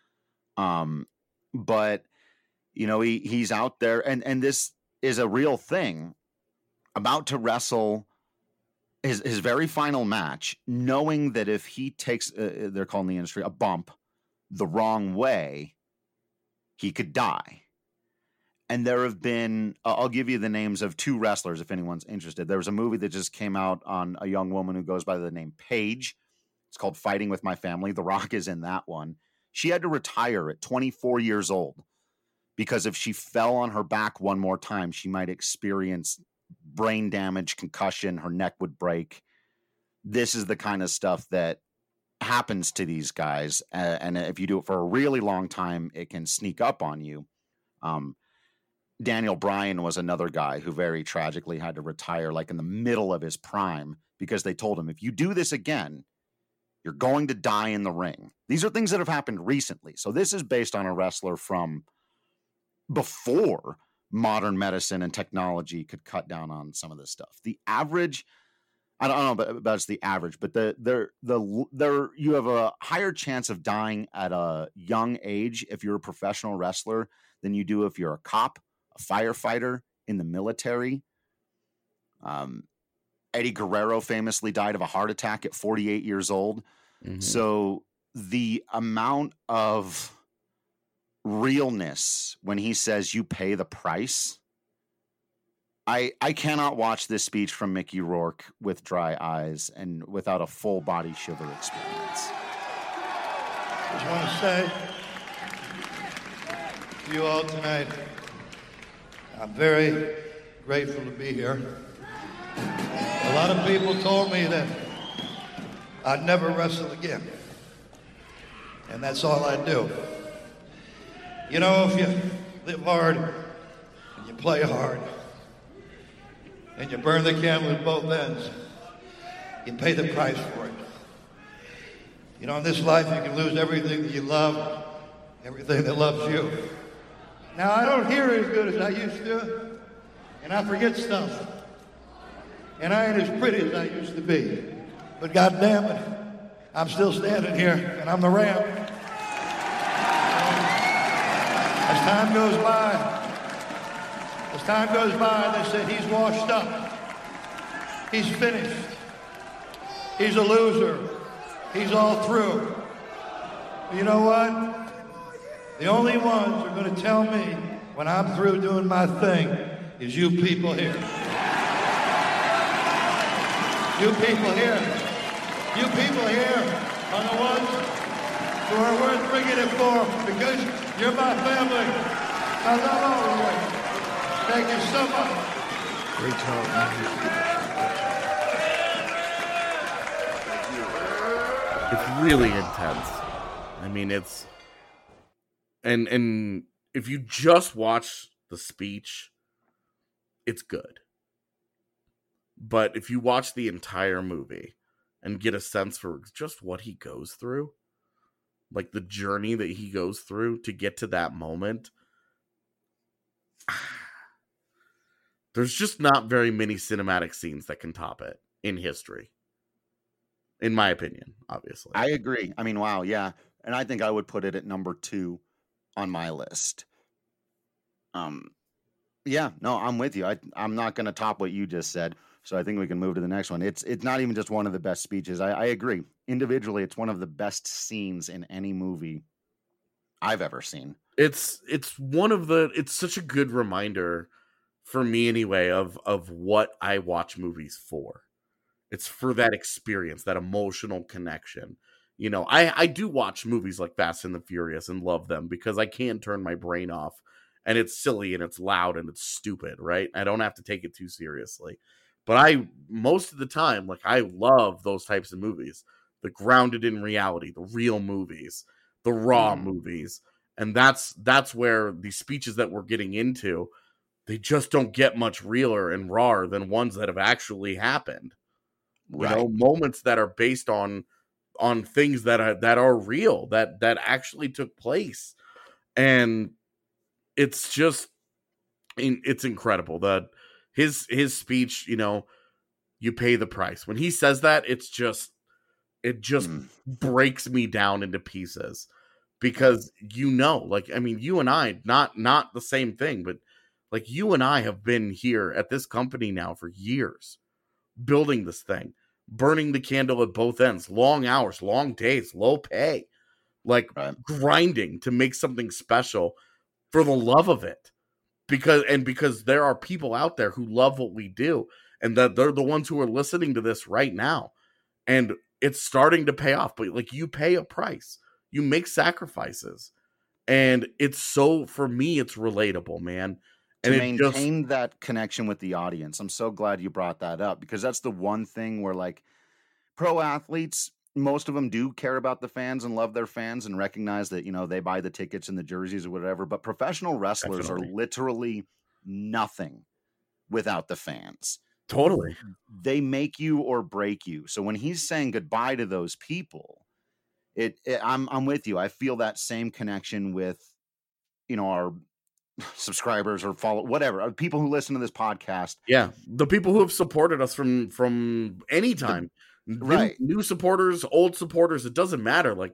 S1: Um, but you know, he he's out there, and and this is a real thing, about to wrestle his his very final match, knowing that if he takes, uh, they're calling the industry a bump, the wrong way, he could die. And there have been, uh, I'll give you the names of two wrestlers if anyone's interested. There was a movie that just came out on a young woman who goes by the name Paige. It's called Fighting with My Family. The Rock is in that one. She had to retire at twenty-four years old because if she fell on her back one more time, she might experience brain damage, concussion, her neck would break. This is the kind of stuff that happens to these guys. Uh, and if you do it for a really long time, it can sneak up on you. Um, Daniel Bryan was another guy who very tragically had to retire like in the middle of his prime because they told him, if you do this again, you're going to die in the ring. These are things that have happened recently. So this is based on a wrestler from before modern medicine and technology could cut down on some of this stuff. The average, I don't know about, about it's the average, but the there the there you have a higher chance of dying at a young age if you're a professional wrestler than you do if you're a cop, a firefighter, in the military. Um, Eddie Guerrero famously died of a heart attack at forty-eight years old.
S3: Mhm.
S1: So the amount of realness when he says you pay the price, I I cannot watch this speech from Mickey Rourke with dry eyes and without a full body shiver experience.
S11: Just want to say to you all tonight, I'm very grateful to be here. A lot of people told me that I'd never wrestle again, and that's all I do. You know, if you live hard and you play hard and you burn the candle at both ends, you pay the price for it. You know, in this life you can lose everything that you love, everything that loves you. Now, I don't hear as good as I used to, and I forget stuff. And I ain't as pretty as I used to be. But God damn it, I'm still standing here, and I'm the Ram. As time goes by, as time goes by, they said he's washed up. He's finished. He's a loser. He's all through. But you know what? The only ones who are going to tell me when I'm through doing my thing is you people here. You people here. You people here are the ones who are worth bringing it for because you're my family. I love all of you. Thank you so much.
S9: Great talk, man.
S3: It's really intense. I mean, it's and and if you just watch the speech, it's good. But if you watch the entire movie and get a sense for just what he goes through, like the journey that he goes through to get to that moment, there's just not very many cinematic scenes that can top it in history. In my opinion, obviously.
S1: I agree. I mean, wow, yeah. And I think I would put it at number two on my list. Um, yeah, no, I'm with you. I, I'm not going to top what you just said, so I think we can move to the next one. It's it's not even just one of the best speeches. I, I agree. Individually, it's one of the best scenes in any movie I've ever seen.
S3: It's it's one of the. It's such a good reminder for me, anyway, of of what I watch movies for. It's for that experience, that emotional connection. You know, I, I do watch movies like Fast and the Furious and love them because I can turn my brain off, and it's silly and it's loud and it's stupid, right? I don't have to take it too seriously. But I, most of the time, like, I love those types of movies. The grounded in reality, the real movies, the raw mm. movies. And that's that's where the speeches that we're getting into, they just don't get much realer and rawer than ones that have actually happened. Right. You know, moments that are based on on things that are that are real, that that actually took place. And it's just it's incredible. That his his speech, you know, you pay the price. When he says that, it's just it just mm. breaks me down into pieces. Because you know, like, I mean, you and I, not not the same thing, but like you and I have been here at this company now for years, building this thing, burning the candle at both ends, long hours, long days, low pay, like right. grinding to make something special for the love of it. Because, and because there are people out there who love what we do, and that they're the ones who are listening to this right now. And it's starting to pay off, but like you pay a price, you make sacrifices, and it's so, for me, it's relatable, man.
S1: To
S3: and
S1: maintain
S3: just,
S1: that connection with the audience. I'm so glad you brought that up, because that's the one thing where, like, pro athletes, most of them do care about the fans and love their fans and recognize that, you know, they buy the tickets and the jerseys or whatever, but professional wrestlers Definitely. are literally nothing without the fans.
S3: Totally.
S1: They make you or break you. So when he's saying goodbye to those people, it, it I'm I'm with you. I feel that same connection with, you know, our subscribers or follow whatever people who listen to this podcast.
S3: Yeah, the people who have supported us from from any time, the, right? New, new supporters, old supporters, it doesn't matter. Like,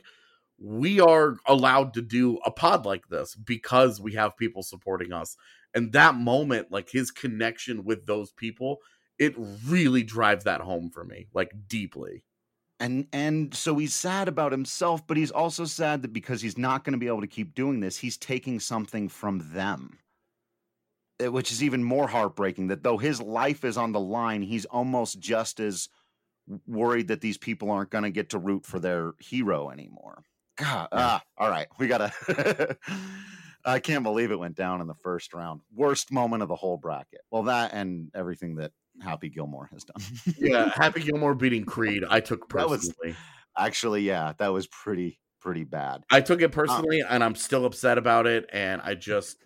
S3: we are allowed to do a pod like this because we have people supporting us, and that moment, like his connection with those people, it really drives that home for me, like deeply.
S1: And and so he's sad about himself, but he's also sad that because he's not going to be able to keep doing this, he's taking something from them, which is even more heartbreaking, that though his life is on the line, he's almost just as worried that these people aren't going to get to root for their hero anymore. God, yeah. ah, all right, we got to... I can't believe it went down in the first round. Worst moment of the whole bracket. Well, that and everything that Happy Gilmore has done.
S3: Yeah, Happy Gilmore beating Creed, I took personally.
S1: That was, actually, yeah, that was pretty, pretty bad.
S3: I took it personally, um, and I'm still upset about it. And I just,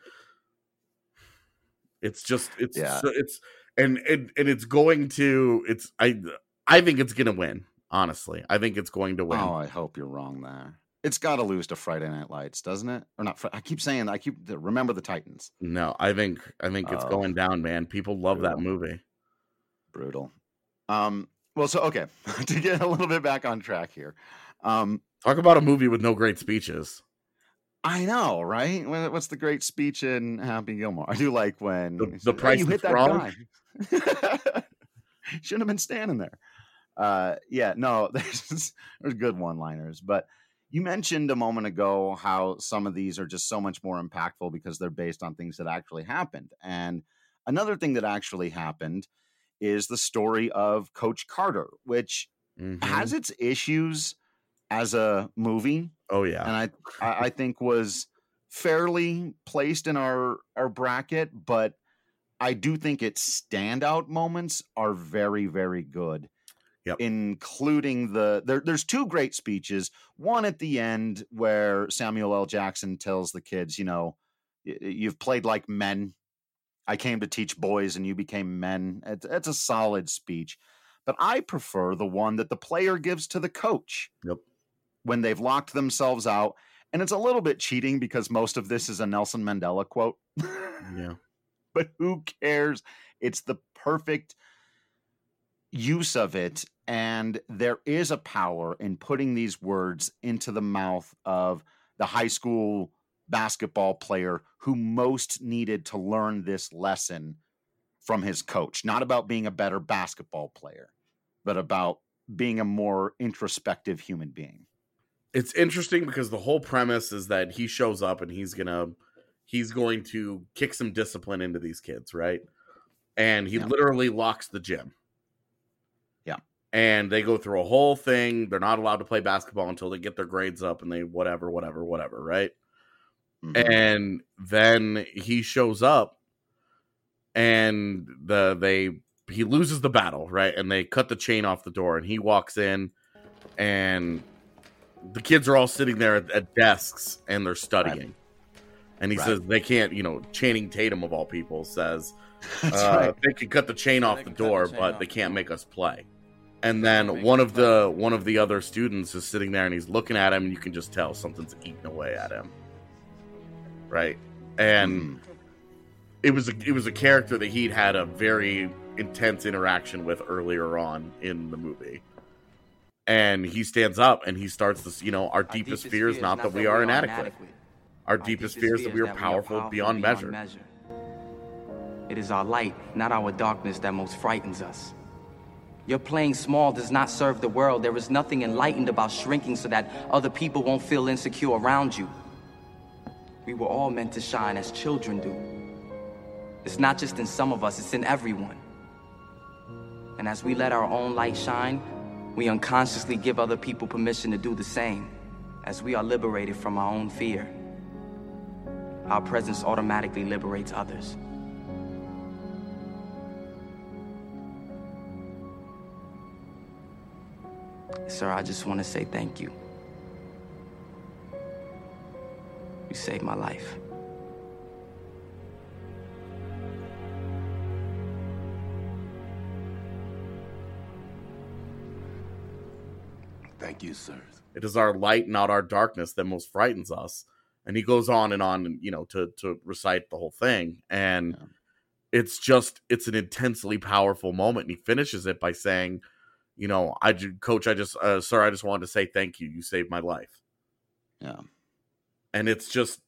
S3: it's just, it's, yeah. it's, and, and and it's going to, it's, I, I think it's gonna win. Honestly, I think it's going to win.
S1: Oh, I hope you're wrong there. It's got to lose to Friday Night Lights, doesn't it? Or not? I keep saying, I keep remember the Titans.
S3: No, I think, I think it's oh. going down, man. People love Brutal. that movie.
S1: Brutal. Um, well, so, okay, to get a little bit back on track here. Um,
S3: Talk about a movie with no great speeches.
S1: I know, right? What's the great speech in Happy Gilmore? I do like when
S3: the, the said, price hey, you hit that wrong.
S1: guy. Shouldn't have been standing there. Uh, yeah, no, there's, there's good one-liners. But you mentioned a moment ago how some of these are just so much more impactful because they're based on things that actually happened. And another thing that actually happened is the story of Coach Carter, which mm-hmm. has its issues as a movie.
S3: Oh yeah.
S1: And I, I think was fairly placed in our, our bracket, but I do think its standout moments are very, very good.
S3: Yep.
S1: Including the, there, there's two great speeches. One at the end where Samuel L. Jackson tells the kids, you know, you've played like men. I came to teach boys and you became men. It's, it's a solid speech. But I prefer the one that the player gives to the coach.
S3: Yep.
S1: When they've locked themselves out. And it's a little bit cheating because most of this is a Nelson Mandela quote.
S3: Yeah.
S1: But who cares? It's the perfect use of it. And there is a power in putting these words into the mouth of the high school basketball player who most needed to learn this lesson from his coach. Not about being a better basketball player, but about being a more introspective human being.
S3: It's interesting because the whole premise is that he shows up and he's gonna he's going to kick some discipline into these kids, right? And he yeah. literally locks the gym.
S1: Yeah.
S3: And they go through a whole thing. They're not allowed to play basketball until they get their grades up and they whatever, whatever, whatever, right? Mm-hmm. And then he shows up and the they he loses the battle, right? And they cut the chain off the door and he walks in and the kids are all sitting there at, at desks and they're studying. Right. And he right. says they can't, you know, Channing Tatum of all people says uh, right. they can cut the chain off the door, the but they can't make us play. And then one of the one of the other students is sitting there and he's looking at him and you can just tell something's eating away at him. Right. And mm. it was a, it was a character that he'd had a very intense interaction with earlier on in the movie. And he stands up and he starts this, you know, our, our deepest, deepest fear is not that, that we are inadequate. inadequate. Our, our deepest, deepest fear is that we are powerful, powerful beyond, beyond measure. measure.
S13: It is our light, not our darkness, that most frightens us. Your playing small does not serve the world. There is nothing enlightened about shrinking so that other people won't feel insecure around you. We were all meant to shine as children do. It's not just in some of us, it's in everyone. And as we let our own light shine, we unconsciously give other people permission to do the same, as we are liberated from our own fear. Our presence automatically liberates others. Sir, I just want to say thank you. You saved my life.
S2: Thank you, sir.
S3: It is our light, not our darkness, that most frightens us. And he goes on and on, you know, to to recite the whole thing. And yeah. it's just, it's an intensely powerful moment. And he finishes it by saying, you know, I, coach, I just, uh, sir, I just wanted to say thank you. You saved my life.
S1: Yeah.
S3: And it's just,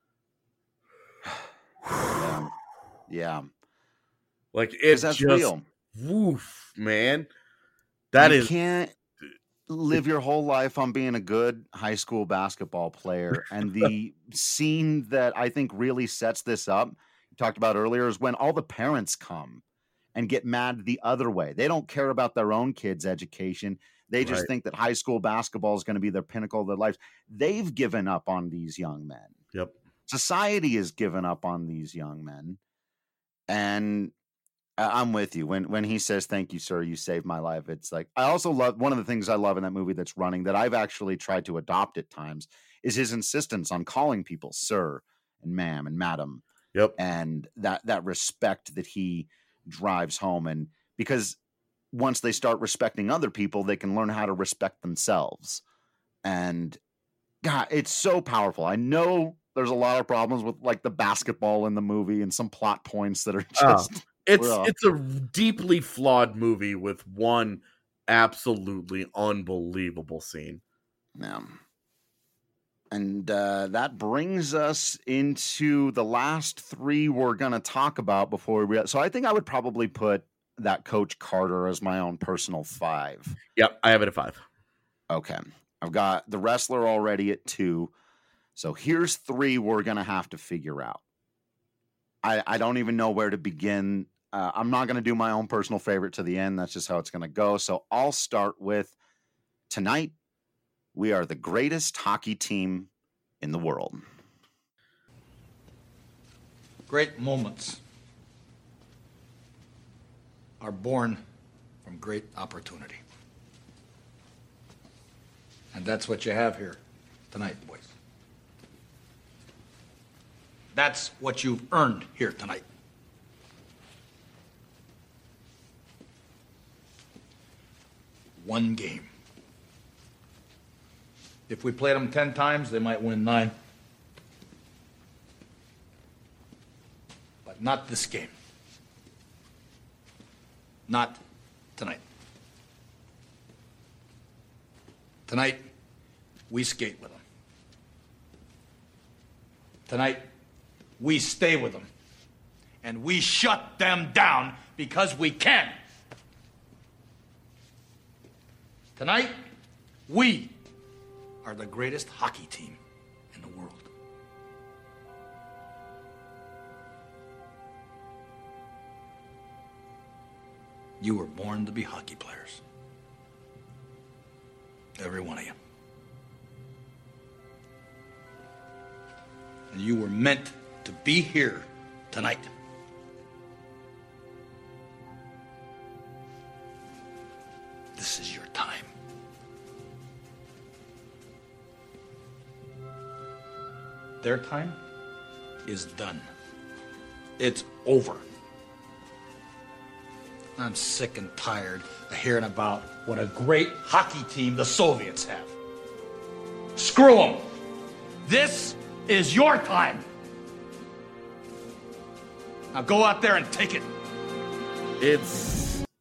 S1: yeah. yeah.
S3: Like, it's
S1: that's
S3: just,
S1: real.
S3: Woof, man. That
S1: you
S3: is.
S1: can't live your whole life on being a good high school basketball player. And the scene that I think really sets this up, you talked about earlier, is when all the parents come and get mad the other way. They don't care about their own kids' education. They just right. think that high school basketball is going to be their pinnacle of their lives. They've given up on these young men.
S3: Yep.
S1: Society has given up on these young men. And I'm with you. When when he says, thank you, sir, you saved my life. It's like, I also love, one of the things I love in that movie that's running that I've actually tried to adopt at times is his insistence on calling people sir and ma'am and madam.
S3: Yep.
S1: And that, that respect that he drives home. And because once they start respecting other people, they can learn how to respect themselves. And God, it's so powerful. I know there's a lot of problems with like the basketball in the movie and some plot points that are just,
S3: oh, it's, ugh. it's a deeply flawed movie with one absolutely unbelievable scene.
S1: Yeah. And uh, that brings us into the last three we're going to talk about before we. So I think I would probably put that Coach Carter as my own personal five.
S3: Yep, I have it at five.
S1: Okay. I've got The Wrestler already at two. So here's three we're going to have to figure out. I, I don't even know where to begin. Uh, I'm not going to do my own personal favorite to the end. That's just how it's going to go. So I'll start with tonight. We are the greatest hockey team in the world.
S16: Great moments are born from great opportunity. And that's what you have here tonight, boys. That's what you've earned here tonight. one game. If we played them ten times, they might win nine. But not this game. Not tonight. Tonight, we skate with them. Tonight, we stay with them. And we shut them down because we can. Tonight, we are the greatest hockey team in the world. You were born to be hockey players. Every one of you. And you were meant to be here tonight. This is your time. Their time is done. It's over. I'm sick and tired of hearing about what a great hockey team the Soviets have. Screw them. This is your time. Now go out there and take it.
S3: It's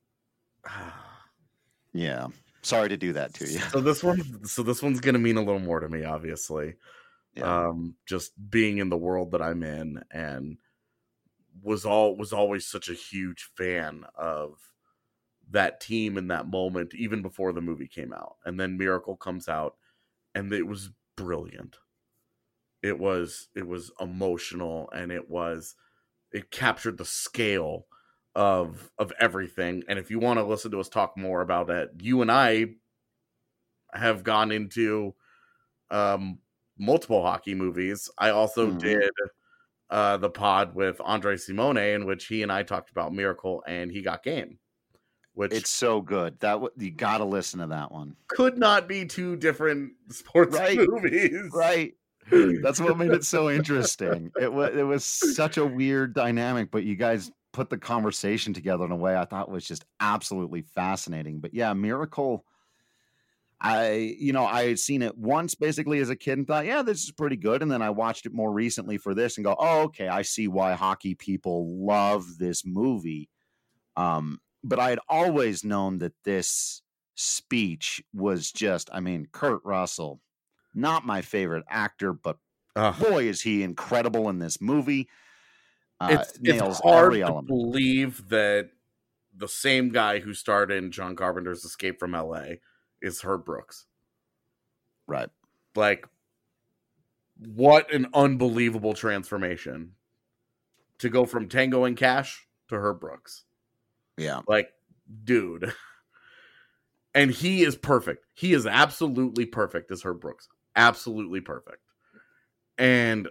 S1: yeah. Sorry to do that to you.
S3: So this one, so this one's gonna mean a little more to me, obviously. Yeah. Um, just being in the world that I'm in, and was all was always such a huge fan of that team in that moment, even before the movie came out. And then Miracle comes out, and it was brilliant. It was it was emotional, and it was it captured the scale of of everything. And if you want to listen to us talk more about it, you and I have gone into um multiple hockey movies. I also mm-hmm. did uh the pod with Andre Simone, in which he and I talked about Miracle and He Got Game, which
S1: it's so good that w- you got to listen to that one.
S3: Could not be two different sports
S1: right.
S3: movies,
S1: right? That's what made it so interesting. It was it was such a weird dynamic, but you guys put the conversation together in a way I thought was just absolutely fascinating. But yeah, Miracle, I, you know, I had seen it once basically as a kid and thought, yeah, this is pretty good. And then I watched it more recently for this and go, oh, okay, I see why hockey people love this movie. Um, but I had always known that this speech was just, I mean, Kurt Russell, not my favorite actor, but uh, boy, is he incredible in this movie. Uh,
S3: it's, it's hard to element. believe that the same guy who starred in John Carpenter's Escape from L A is Herb Brooks.
S1: Right.
S3: Like, what an unbelievable transformation to go from Tango and Cash to Herb Brooks.
S1: Yeah.
S3: Like, dude. And he is perfect. He is absolutely perfect as Herb Brooks. Absolutely perfect. And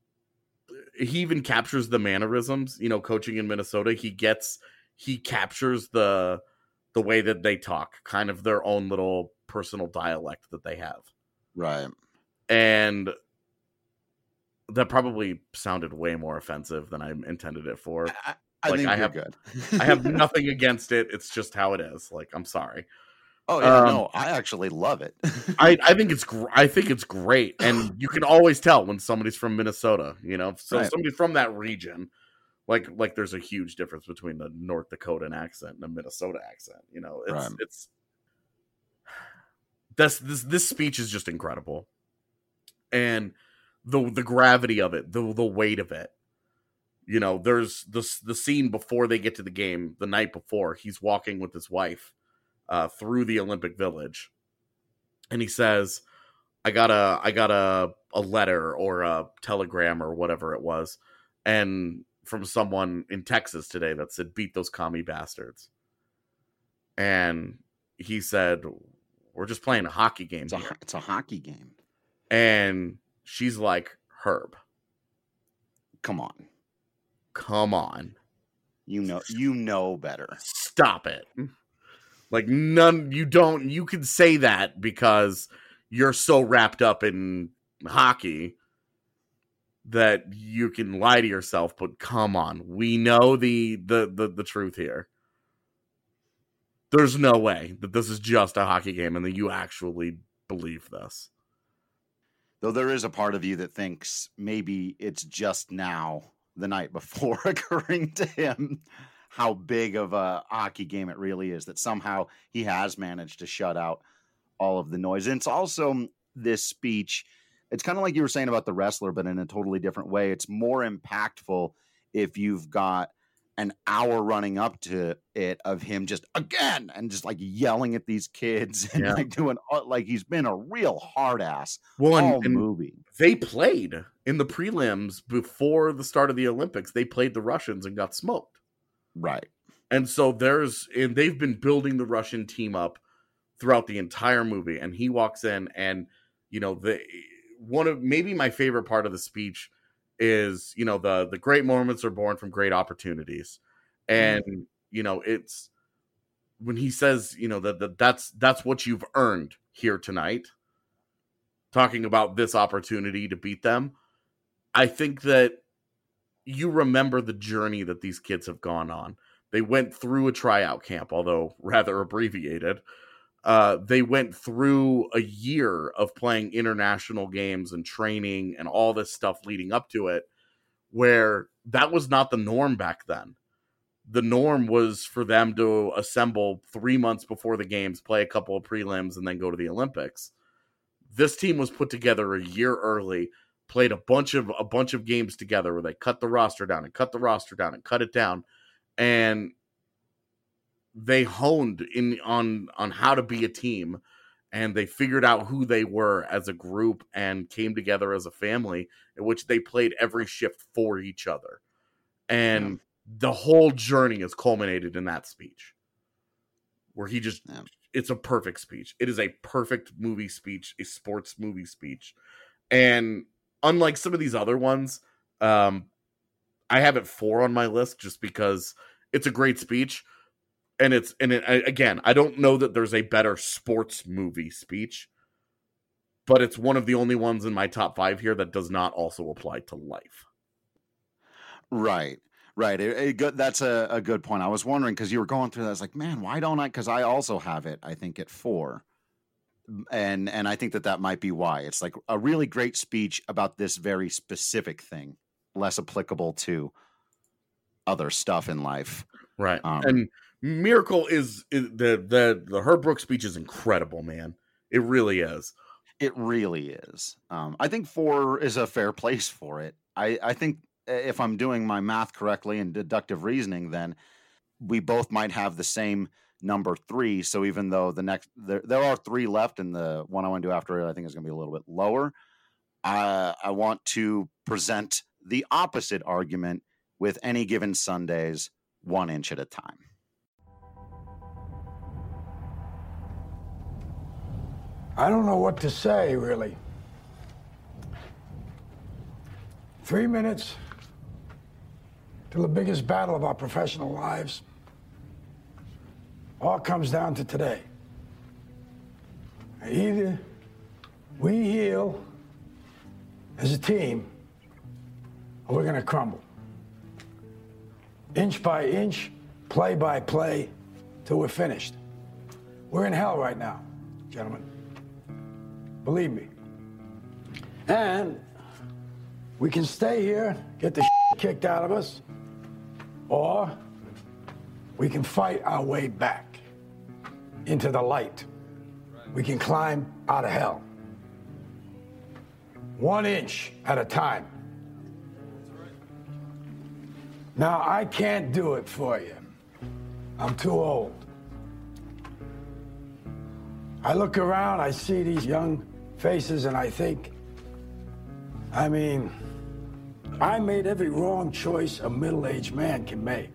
S3: he even captures the mannerisms, you know, coaching in Minnesota. He gets, he captures the, the way that they talk, kind of their own little personal dialect that they have.
S1: Right.
S3: And that probably sounded way more offensive than I intended it for.
S1: I, I
S3: like,
S1: think
S3: I
S1: you're
S3: have,
S1: good.
S3: I have nothing against it. It's just how it is. Like, I'm sorry.
S1: Oh yeah,
S3: um,
S1: no, I actually love it.
S3: I, I think it's gr- I think it's great, and you can always tell when somebody's from Minnesota. You know, so
S1: right.
S3: somebody from that region, like like there's a huge difference between the North Dakotan accent and the Minnesota accent. You know, it's
S1: right.
S3: it's this this this speech is just incredible, and the the gravity of it, the the weight of it. You know, there's the the scene before they get to the game, the night before, he's walking with his wife Uh, through the Olympic Village, and he says, "I got a, I got a, a letter or a telegram or whatever it was, and from someone in Texas today that said, beat those commie bastards." And he said, "We're just playing a hockey game.
S1: It's a, it's a hockey game."
S3: And she's like, "Herb,
S1: come on,
S3: come on,
S1: you know, you know better.
S3: Stop it." Like, none, you don't, you can say that because you're so wrapped up in hockey that you can lie to yourself, but come on, we know the, the, the, the truth here. there's no way that this is just a hockey game and that you actually believe this.
S1: Though there is a part of you that thinks maybe it's just now, the night before, occurring to him how big of a hockey game it really is, that somehow he has managed to shut out all of the noise. And it's also this speech, it's kind of like you were saying about The Wrestler, but in a totally different way. It's more impactful if you've got an hour running up to it of him just again and just like yelling at these kids and
S3: Yeah.
S1: like doing like he's been a real hard ass
S3: Well, and-
S1: all
S3: and
S1: movie.
S3: They played in the prelims before the start of the Olympics. They played the Russians and got smoked.
S1: Right.
S3: And so there's, and they've been building the Russian team up throughout the entire movie. And he walks in and, you know, the, one of maybe my favorite part of the speech is, you know, the, the great moments are born from great opportunities. And, mm-hmm. you know, it's when he says, you know, that, that that's, that's what you've earned here tonight, talking about this opportunity to beat them. I think that you remember the journey that these kids have gone on. They went through a tryout camp, although rather abbreviated. Uh, they went through a year of playing international games and training and all this stuff leading up to it, where that was not the norm back then. The norm was for them to assemble three months before the games, play a couple of prelims, and then go to the Olympics. This team was put together a year early, played a bunch of a bunch of games together where they cut the roster down and cut the roster down and cut it down, and they honed in on on how to be a team, and they figured out who they were as a group and came together as a family in which they played every shift for each other. And yeah. the whole journey is culminated in that speech where he just, yeah. it's a perfect speech. It is a perfect movie speech, a sports movie speech. And unlike some of these other ones, um, I have it four on my list just because it's a great speech. And it's, and it, again, I don't know that there's a better sports movie speech, but it's one of the only ones in my top five here that does not also apply to life.
S1: Right, right. It, it good, that's a, a good point. I was wondering, because you were going through that. I was like, man, why don't I? Because I also have it, I think, at four. And, and I think that that might be why. It's like a really great speech about this very specific thing, less applicable to other stuff in life.
S3: Right.
S1: Um,
S3: and Miracle is, is the the the Herb Brooks speech is incredible, man. It really is.
S1: It really is. Um, I think four is a fair place for it. I, I think if I'm doing my math correctly and deductive reasoning, then we both might have the same number three. So even though the next there there are three left, and the one I want to do after it, I think is going to be a little bit lower. Uh, I want to present the opposite argument with Any Given Sundays, One Inch at a Time.
S18: I don't know what to say, really. Three minutes to the biggest battle of our professional lives. All comes down to today. Either we heal as a team, or we're gonna crumble. Inch by inch, play by play, till we're finished. We're in hell right now, gentlemen. Believe me. And we can stay here, get the shit kicked out of us, or we can fight our way back into the light. We can climb out of hell. One inch at a time. Now, I can't do it for you. I'm too old. I look around, I see these young faces, and I think, I mean, I made every wrong choice a middle-aged man can make.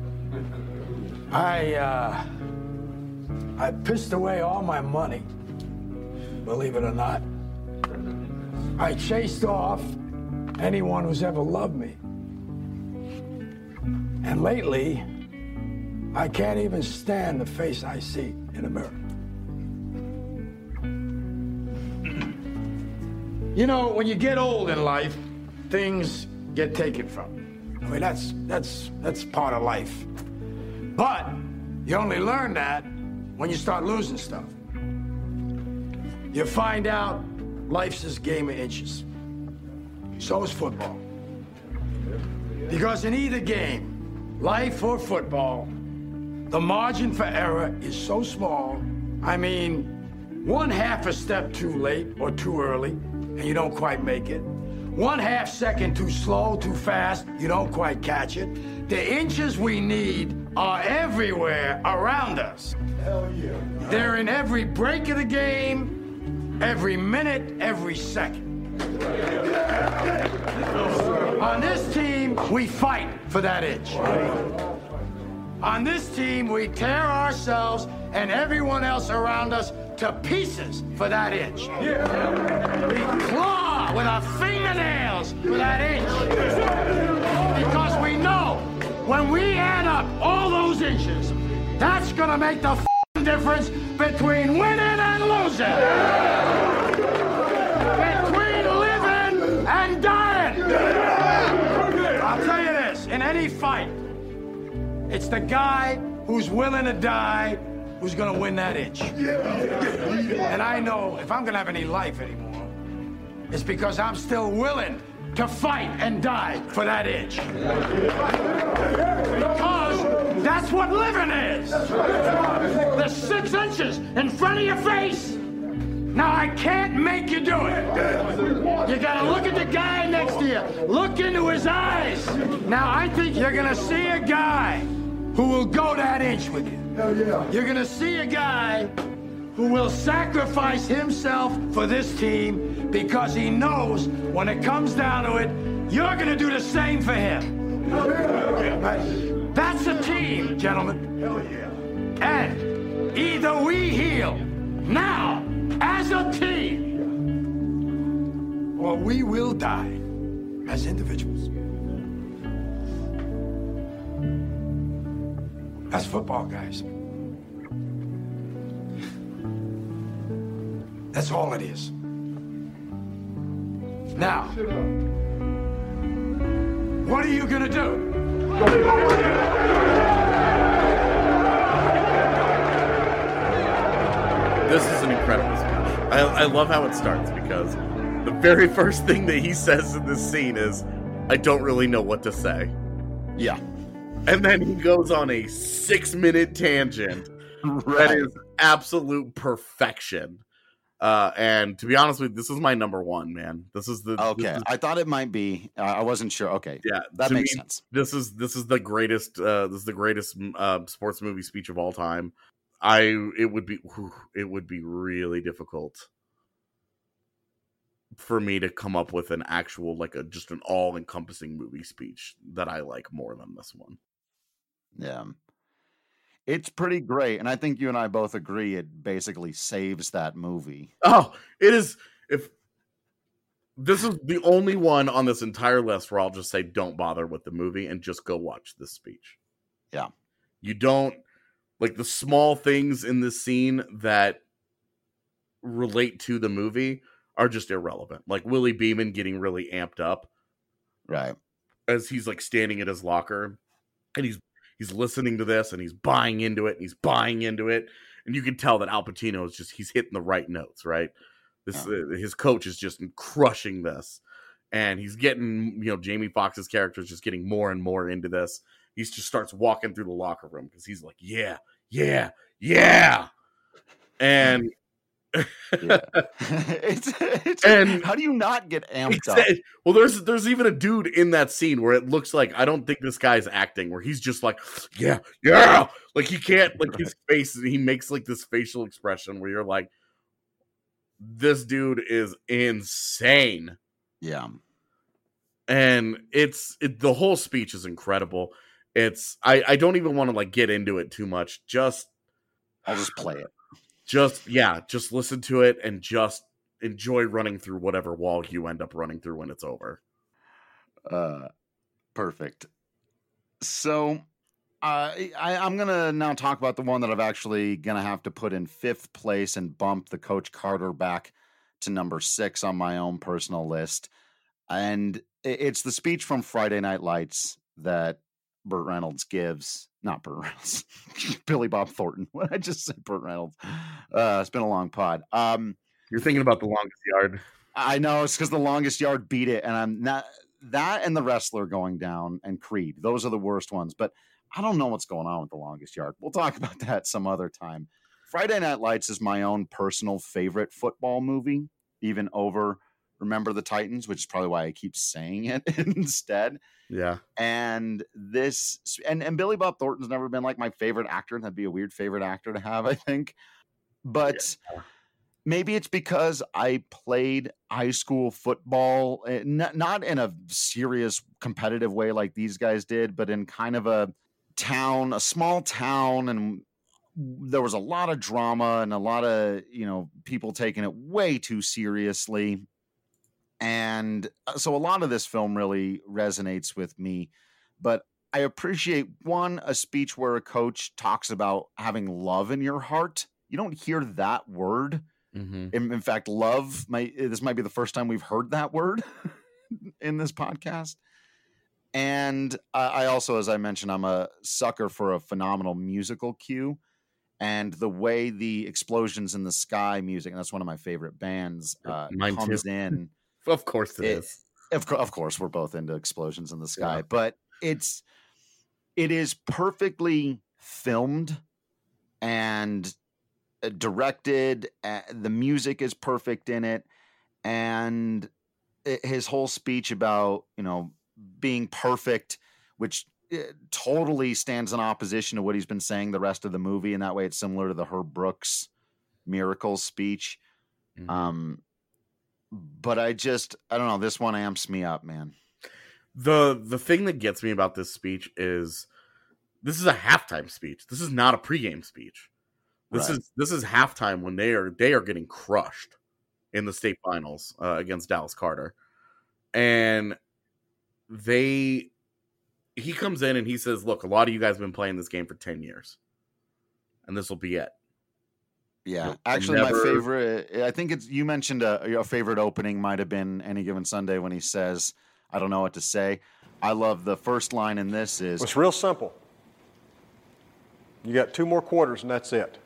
S18: I, uh, I pissed away all my money, believe it or not. I chased off anyone who's ever loved me. And lately, I can't even stand the face I see in the mirror. You know, when you get old in life, things get taken from you. I mean, that's that's that's part of life. But you only learn that when you start losing stuff. You find out life's this game of inches. So is football. Because in either game, life or football, the margin for error is so small. I mean, one half a step too late or too early, and you don't quite make it. One half second too slow, too fast, you don't quite catch it. The inches we need are everywhere around us.
S11: Hell yeah.
S18: They're in every break of the game, every minute, every second. On this team, we fight for that inch. On this team, we tear ourselves and everyone else around us to pieces for that inch. We claw with our fingernails for that inch. Because we know when we add up all those inches, that's gonna make the f***ing difference between winning and losing. Between living and dying. I'll tell you this, in any fight, it's the guy who's willing to die who's gonna win that inch. And I know if I'm gonna have any life anymore, it's because I'm still willing to fight and die for that inch. Because that's what living is. The six inches in front of your face. Now, I can't make you do it. You gotta look at the guy next to you. Look into his eyes. Now, I think you're gonna see a guy who will go that inch with you.
S11: Hell yeah.
S18: You're gonna see a guy who will sacrifice himself for this team because he knows when it comes down to it, you're gonna do the same for him. Right? That's a team, gentlemen.
S11: Hell yeah.
S18: And either we heal now as a team, or we will die as individuals. That's football, guys. That's all it is. Now, what are you gonna do?
S3: This is an incredible speech. I, I love how it starts because the very first thing that he says in this scene is, I don't really know what to say.
S1: Yeah.
S3: And then he goes on a six-minute tangent
S1: Right.
S3: that is absolute perfection. Uh, and to be honest with you, this is my number one, man. This is the
S1: Okay,
S3: this is-
S1: I thought it might be. Uh, I wasn't sure. Okay,
S3: yeah,
S1: that
S3: to
S1: makes
S3: me,
S1: sense.
S3: This is this is the greatest. Uh, this is the greatest uh, sports movie speech of all time. I it would be whew, it would be really difficult for me to come up with an actual like a just an all encompassing movie speech that I like more than this one.
S1: Yeah, it's pretty great, and I think you and I both agree it basically saves that movie.
S3: Oh, it is. If this is the only one on this entire list where I'll just say, don't bother with the movie and just go watch this speech.
S1: Yeah,
S3: you don't like the small things in this scene that relate to the movie are just irrelevant. Like Willie Beeman getting really amped up,
S1: right,
S3: as he's like standing at his locker, and he's he's listening to this and he's buying into it and he's buying into it, and you can tell that Al Pacino is just he's hitting the right notes, right? This uh, his coach is just crushing this, and he's getting, you know, Jamie Foxx's character is just getting more and more into this. He just starts walking through the locker room because he's like, yeah, yeah, yeah, and.
S1: yeah. it's, it's
S3: and
S1: how do you not get amped up?
S3: Well, there's there's even a dude in that scene where it looks like I don't think this guy's acting, where he's just like, yeah, yeah, like he can't, like his face, he makes like this facial expression where you're like, this dude is insane.
S1: Yeah,
S3: and it's it, the whole speech is incredible. It's I I don't even want to like get into it too much. Just
S1: I'll just play it.
S3: Just, yeah, just listen to it and just enjoy running through whatever wall you end up running through when it's over.
S1: Uh, perfect. So, uh, I, I'm going to now talk about the one that I've actually going to have to put in fifth place and bump the Coach Carter back to number six on my own personal list. And it's the speech from Friday Night Lights that Burt Reynolds gives not Burt Reynolds, Billy Bob Thornton. What did I just say? Burt Reynolds. Uh, it's been a long pod. Um,
S3: You're thinking about The Longest Yard.
S1: I know it's because The Longest Yard beat it, and I'm not that and The Wrestler going down and Creed. Those are the worst ones, but I don't know what's going on with The Longest Yard. We'll talk about that some other time. Friday Night Lights is my own personal favorite football movie, even over Remember the Titans, which is probably why I keep saying it instead.
S3: Yeah.
S1: And this, and, and Billy Bob Thornton's never been like my favorite actor. That'd be a weird favorite actor to have, I think. But yeah. Maybe it's because I played high school football, not, not in a serious competitive way like these guys did, but in kind of a town, a small town, and there was a lot of drama and a lot of, you know, people taking it way too seriously. And so a lot of this film really resonates with me, but I appreciate one, a speech where a coach talks about having love in your heart. You don't hear that word.
S3: Mm-hmm.
S1: In, in fact, love might, this might be the first time we've heard that word in this podcast. And uh, I also, as I mentioned, I'm a sucker for a phenomenal musical cue. And the way the Explosions in the Sky music, and that's one of my favorite bands, uh,
S3: Mine
S1: comes
S3: too.
S1: in.
S3: Of course it, it is.
S1: Of, co- of course, we're both into Explosions in the Sky,
S3: Yeah.
S1: but it's it is perfectly filmed and uh, directed. Uh, the music is perfect in it, and it, his whole speech about, you know, being perfect, which uh, totally stands in opposition to what he's been saying the rest of the movie. And that way, it's similar to the Herb Brooks Miracles speech.
S3: Mm-hmm.
S1: Um. But I just, I don't know. This one amps me up, man.
S3: The the thing that gets me about this speech is this is a halftime speech. This is not a pregame speech. This
S1: Right.
S3: is this is halftime when they are they are getting crushed in the state finals uh, against Dallas Carter, and they he comes in and he says, "Look, a lot of you guys have been playing this game for ten years, and this will be it."
S1: Yeah,
S3: You'll
S1: actually,
S3: never-
S1: my favorite. I think it's you mentioned a, a favorite opening might have been Any Given Sunday when he says, "I don't know what to say." I love the first line in this is
S17: It's real simple. You got two more quarters and that's it.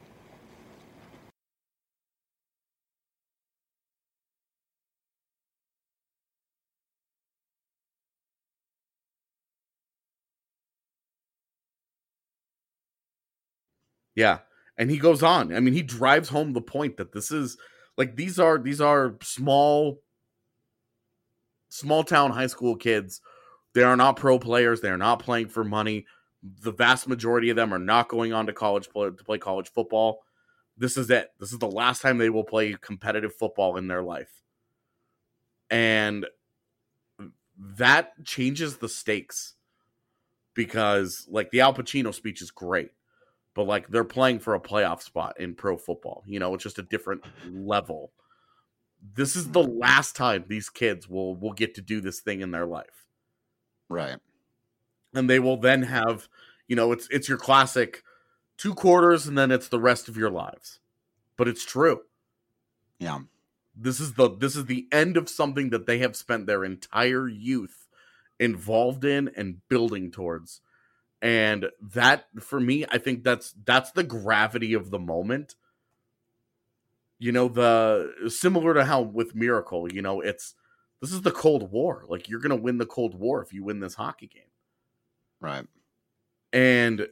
S3: Yeah. And he goes on. I mean, he drives home the point that this is like these are these are small small town high school kids. They are not pro players. They are not playing for money. The vast majority of them are not going on to college play, to play college football. This is it. This is the last time they will play competitive football in their life. And that changes the stakes because like the Al Pacino speech is great. But, like, they're playing for a playoff spot in pro football. You know, it's just a different level. This is the last time these kids will, will get to do this thing in their life.
S1: right.
S3: And they will then have, you know, it's it's your classic two quarters and then it's the rest of your lives. But it's true.
S1: Yeah.
S3: This is the this is the end of something that they have spent their entire youth involved in and building towards. And that, for me, I think that's that's the gravity of the moment. You know, the similar to how with Miracle, you know, it's this is the Cold War. Like, you're going to win the Cold War if you win this hockey game.
S1: Right.
S3: And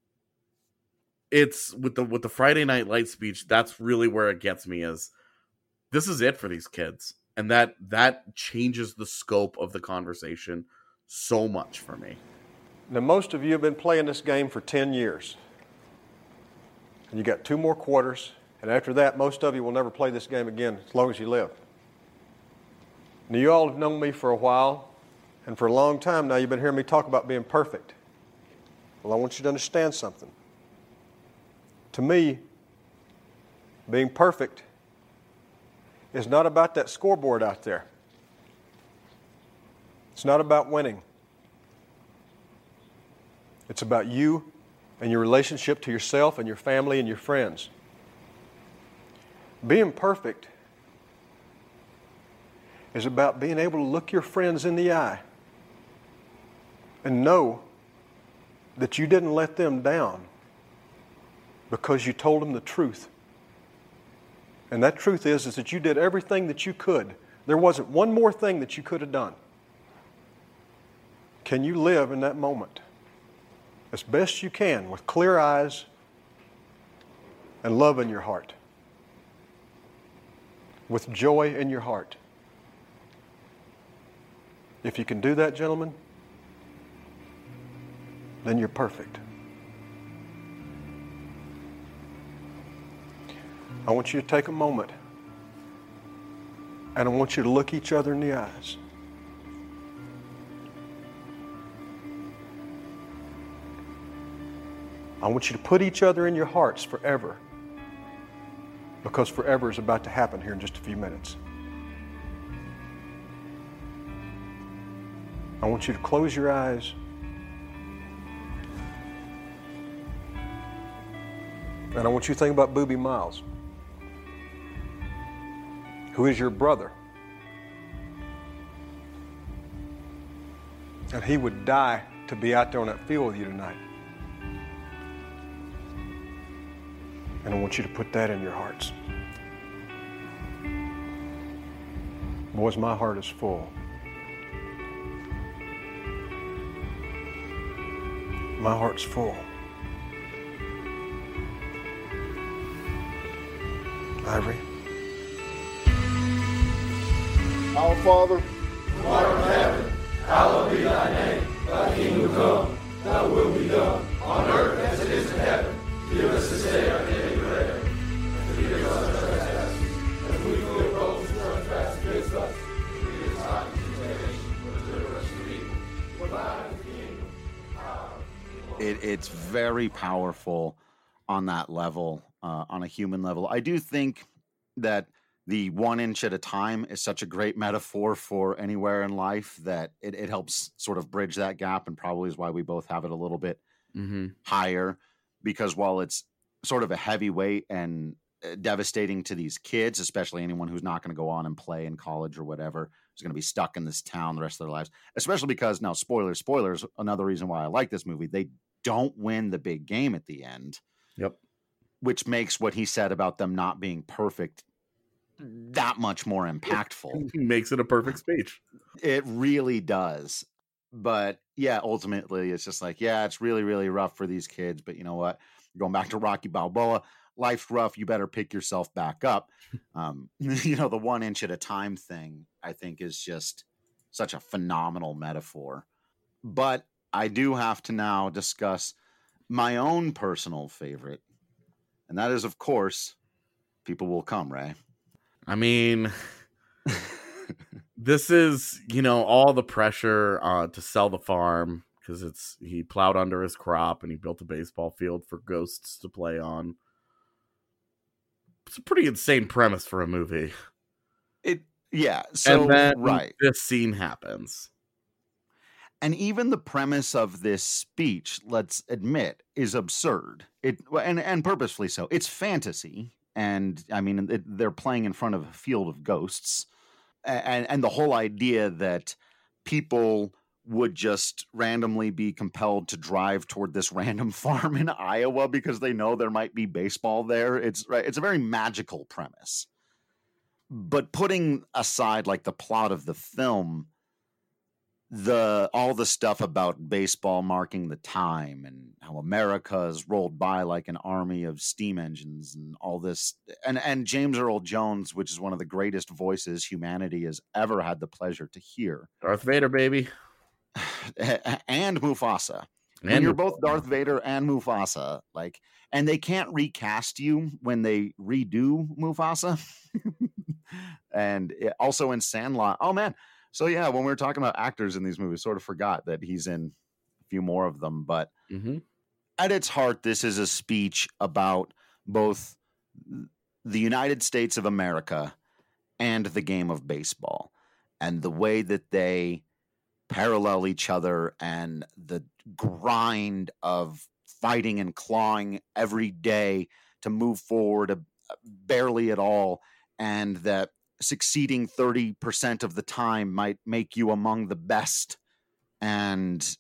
S3: it's with the with the Friday Night Light speech, that's really where it gets me is this is it for these kids. And that that changes the scope of the conversation so much for me.
S17: Now, most of you have been playing this game for ten years. And you got two more quarters, and after that, most of you will never play this game again as long as you live. Now, you all have known me for a while, and for a long time now, you've been hearing me talk about being perfect. Well, I want you to understand something. To me, being perfect is not about that scoreboard out there. It's not about winning. It's about you and your relationship to yourself and your family and your friends. Being perfect is about being able to look your friends in the eye and know that you didn't let them down because you told them the truth. And that truth is, is that you did everything that you could. There wasn't one more thing that you could have done. Can you live in that moment as best you can with clear eyes and love in your heart, with joy in your heart? If you can do that, gentlemen, then you're perfect. I want you to take a moment and I want you to look each other in the eyes. I want you to put each other in your hearts forever, because forever is about to happen here in just a few minutes. I want you to close your eyes and I want you to think about Boobie Miles, who is your brother. And he would die to be out there on that field with you tonight. And I want you to put that in your hearts. Boys, my heart is full. My heart's full. Ivory.
S14: Our Father,
S22: who art in heaven, hallowed be thy name. Thy kingdom come, thy will be done, on earth as it is in heaven. Give us this day our daily bread, and forgive us our trespasses, as we forgive those who trespass against us. Lead us not into temptation, but deliver us from evil. For thine is the kingdom, power, and glory.
S1: It, it's very powerful on that level, uh, on a human level. I do think that the one inch at a time is such a great metaphor for anywhere in life that it, it helps sort of bridge that gap, and probably is why we both have it a little bit
S3: Mm-hmm.
S1: higher, because while it's sort of a heavyweight and devastating to these kids, especially anyone who's not going to go on and play in college or whatever, who's going to be stuck in this town the rest of their lives, especially because now spoilers, spoilers, another reason why I like this movie, they don't win the big game at the end.
S3: Yep.
S1: Which makes what he said about them not being perfect that much more impactful.
S3: Makes it a perfect speech.
S1: It really does. But yeah, ultimately it's just like, yeah, it's really, really rough for these kids. But you know what? Going back to Rocky Balboa, life's rough. You better pick yourself back up. Um, you know, the one inch at a time thing, I think, is just such a phenomenal metaphor. But I do have to now discuss my own personal favorite. And that is, of course, People Will Come, Ray.
S3: I mean, this is, you know, all the pressure uh, to sell the farm, because it's he plowed under his crop and he built a baseball field for ghosts to play on. It's a pretty insane premise for a movie.
S1: It yeah, so
S3: and then
S1: right.
S3: this scene happens.
S1: And even the premise of this speech, let's admit, is absurd. It and and purposefully so. It's fantasy. And I mean, it, they're playing in front of a field of ghosts, and and the whole idea that people would just randomly be compelled to drive toward this random farm in Iowa because they know there might be baseball there. It's right. It's a very magical premise. But putting aside like the plot of the film, the all the stuff about baseball marking the time and how America has rolled by like an army of steam engines and all this, and and James Earl Jones, which is one of the greatest voices humanity has ever had the pleasure to hear.
S3: Darth Vader, baby.
S1: And Mufasa.
S3: And
S1: when you're both Darth Vader and Mufasa, like, and they can't recast you when they redo Mufasa. And it, also in Sandlot. Oh man. So yeah, when we were talking about actors in these movies, sort of forgot that he's in a few more of them. But
S3: mm-hmm.
S1: at its heart, this is a speech about both the United States of America and the game of baseball, and the way that they parallel each other, and the grind of fighting and clawing every day to move forward uh, barely at all, and that succeeding thirty percent of the time might make you among the best. And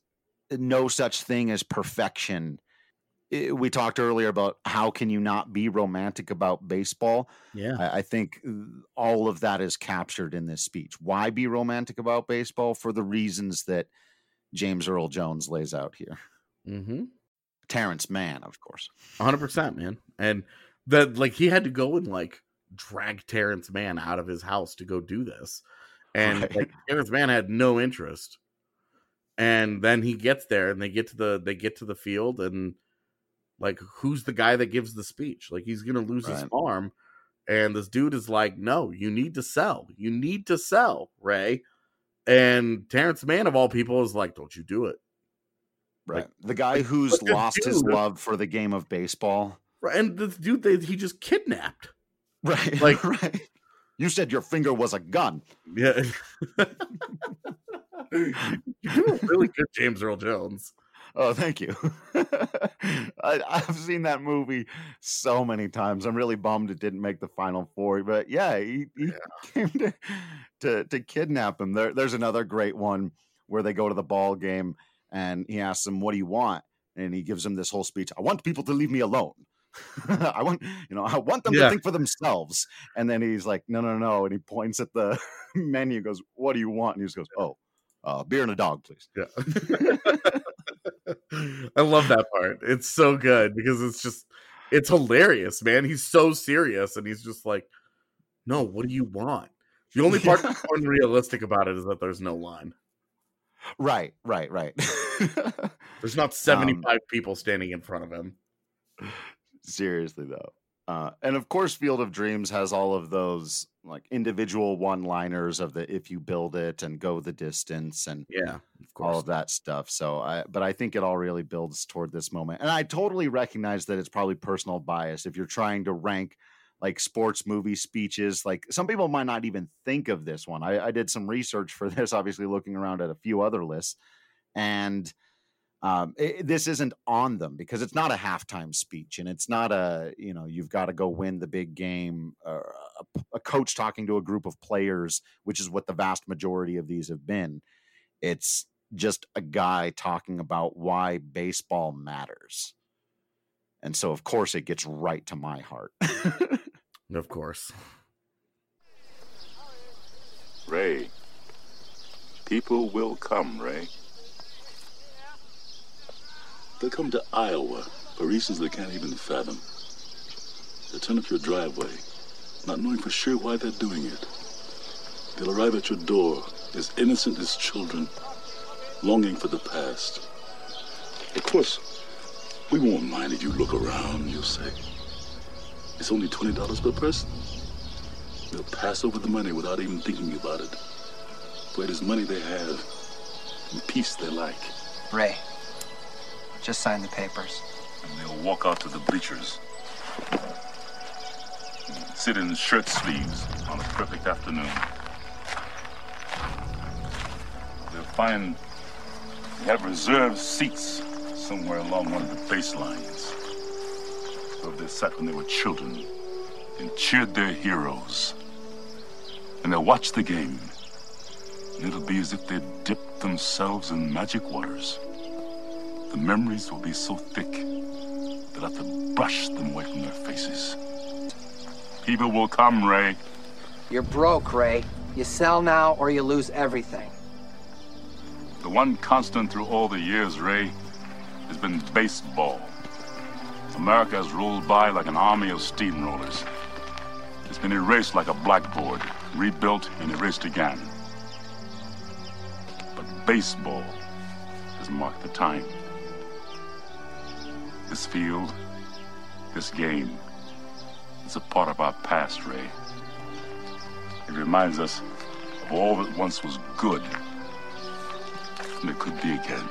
S1: no such thing as perfection. We talked earlier about how can you not be romantic about baseball.
S3: Yeah.
S1: I, I think all of that is captured in this speech. Why be romantic about baseball? For the reasons that James Earl Jones lays out here.
S3: Mm-hmm.
S1: Terrence Mann, of course.
S3: one hundred percent, man. And that, like, he had to go and, like, drag Terrence Mann out of his house to go do this. And
S1: Right.
S3: like, Terrence Mann had no interest. And then he gets there and they get to the they get to the field, and like, who's the guy that gives the speech? Like, he's gonna lose his
S1: Right.
S3: farm. And this dude is like, no, you need to sell. You need to sell, Ray. And Terrence Mann, of all people, is like, don't you do it.
S1: Right.
S3: Like,
S1: the guy
S3: like,
S1: who's
S3: look at
S1: lost his
S3: dude.
S1: love for the game of baseball.
S3: Right, and this dude that he just kidnapped.
S1: Right.
S3: Like,
S1: right. You said your finger was a gun.
S3: Yeah. You're doing really good, James Earl Jones.
S1: Oh, thank you. I, I've seen that movie so many times. I'm really bummed it didn't make the final four. But yeah, he, he
S3: Yeah.
S1: came to, to to kidnap him. There, there's another great one where they go to the ball game and he asks him, "What do you want?" And he gives him this whole speech. "I want people to leave me alone. I want, you know, I want them
S3: Yeah.
S1: to think for themselves." And then he's like, "No, no, no." And he points at the menu, goes, "What do you want?" And he just goes, "Oh, uh, beer and a dog, please."
S3: Yeah. I love that part. It's so good because it's just, it's hilarious, man. He's so serious and he's just like, no, what do you want? The only part
S1: Yeah.
S3: that's unrealistic about it is that there's no line.
S1: Right, right, right.
S3: There's not seventy-five people standing in front of him.
S1: Seriously though. Uh, and of course, Field of Dreams has all of those like individual one-liners of the "if you build it" and "go the distance" and
S3: Yeah, of
S1: all
S3: course.
S1: of that stuff. So, I but I think it all really builds toward this moment. And I totally recognize that it's probably personal bias if you're trying to rank like sports movie speeches. Like, some people might not even think of this one. I, I did some research for this, obviously looking around at a few other lists, and um, it, this isn't on them because it's not a halftime speech and it's not a, you know, you've got to go win the big game, uh, a, a coach talking to a group of players, which is what the vast majority of these have been. It's just a guy talking about why baseball matters. And so, of course, it gets right to my heart.
S3: Of course.
S6: Ray, people will come, Ray. They'll come to Iowa for reasons they can't even fathom. They'll turn up your driveway, not knowing for sure why they're doing it. They'll arrive at your door as innocent as children, longing for the past. Of course, we won't mind if you look around, you'll say. It's only twenty dollars per person. They'll pass over the money without even thinking about it. For it is money they have and peace they like.
S19: Ray, just sign the papers.
S6: And they'll walk out to the bleachers. Sit in shirt sleeves on a perfect afternoon. They'll find they have reserved seats somewhere along one of the baselines. Where they sat when they were children and cheered their heroes. And they'll watch the game. And it'll be as if they'd dipped themselves in magic waters. The memories will be so thick they'll have to brush them away from their faces. People will come, Ray.
S19: You're broke, Ray. You sell now or you lose everything.
S6: The one constant through all the years, Ray, has been baseball. America has rolled by like an army of steamrollers. It's been erased like a blackboard, rebuilt and erased again. But baseball has marked the time. This field, this game, is a part of our past, Ray. It reminds us of all that once was good, and it could be again.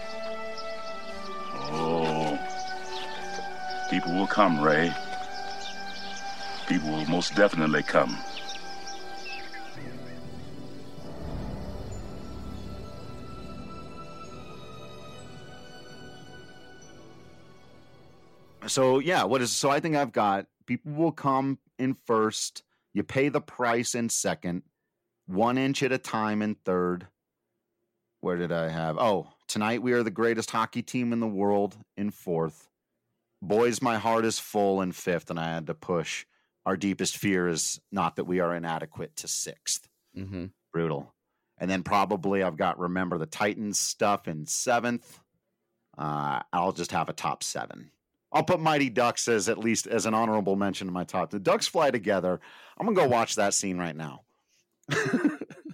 S6: Oh, people will come, Ray. People will most definitely come.
S1: So yeah, what is so I think I've got people will come in first, you pay the price in second, one inch at a time in third. Where did I have? Oh, Tonight, we are the greatest hockey team in the world in fourth. Boys, my heart is full in fifth, and I had to push. Our deepest fear is not that we are inadequate to sixth.
S3: Mm-hmm.
S1: Brutal. And then probably I've got Remember the Titans stuff in seventh. Uh, I'll just have a top seven. I'll put Mighty Ducks as at least as an honorable mention in my top. The Ducks fly together. I'm going to go watch that scene right now. These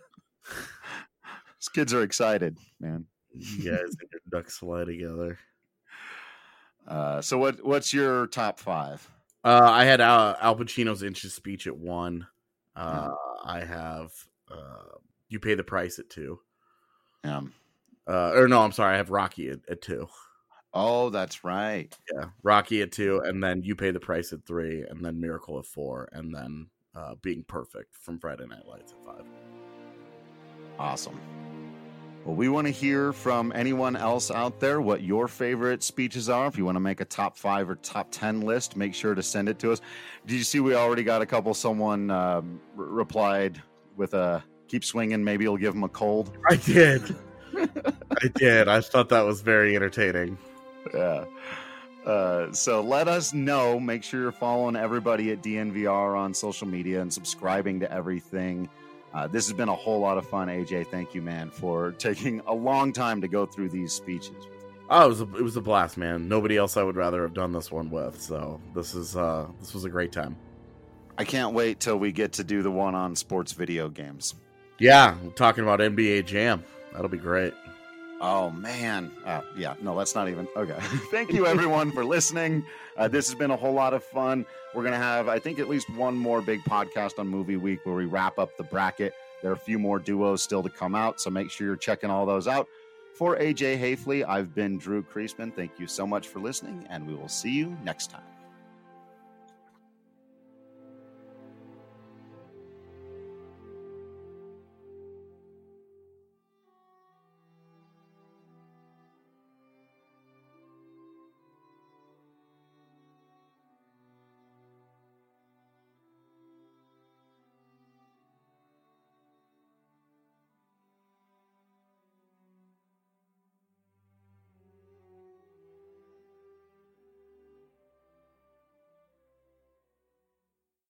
S1: kids are excited, man.
S3: You guys and your Ducks fly together.
S1: Uh, so what? What's your top five?
S3: Uh, I had Al, Al Pacino's Inch's Speech at one. Uh, mm-hmm. I have uh, You Pay the Price at two.
S1: Yeah.
S3: Uh, or no, I'm sorry. I have Rocky at, at two.
S1: Oh, that's right.
S3: Yeah, Rocky at two, and then You Pay the Price at three, and then Miracle at four, and then uh, Being Perfect from Friday Night Lights at five.
S1: Awesome. Well, we want to hear from anyone else out there what your favorite speeches are. If you want to make a top five or top ten list, make sure to send it to us. Did you see we already got a couple? Someone um, r- replied with a keep swinging. Maybe you'll give them a cold.
S3: I did. I did. I thought that was very entertaining.
S1: Yeah. Uh, so let us know. Make sure you're following everybody at D N V R on social media and subscribing to everything. Uh, this has been a whole lot of fun, A J. Thank you, man, for taking a long time to go through these speeches.
S3: Oh, it was a, it was a blast, man. Nobody else I would rather have done this one with. So this is uh, this was a great time.
S1: I can't wait till we get to do the one on sports video games.
S3: Yeah, I'm talking about N B A Jam. That'll be great.
S1: Oh, man. Uh, yeah, no, that's not even. Okay. Thank you, everyone, for listening. Uh, this has been a whole lot of fun. We're going to have, I think, at least one more big podcast on Movie Week where we wrap up the bracket. There are a few more duos still to come out, so make sure you're checking all those out. For A J Hafley, I've been Drew Creasman. Thank you so much for listening, and we will see you next time.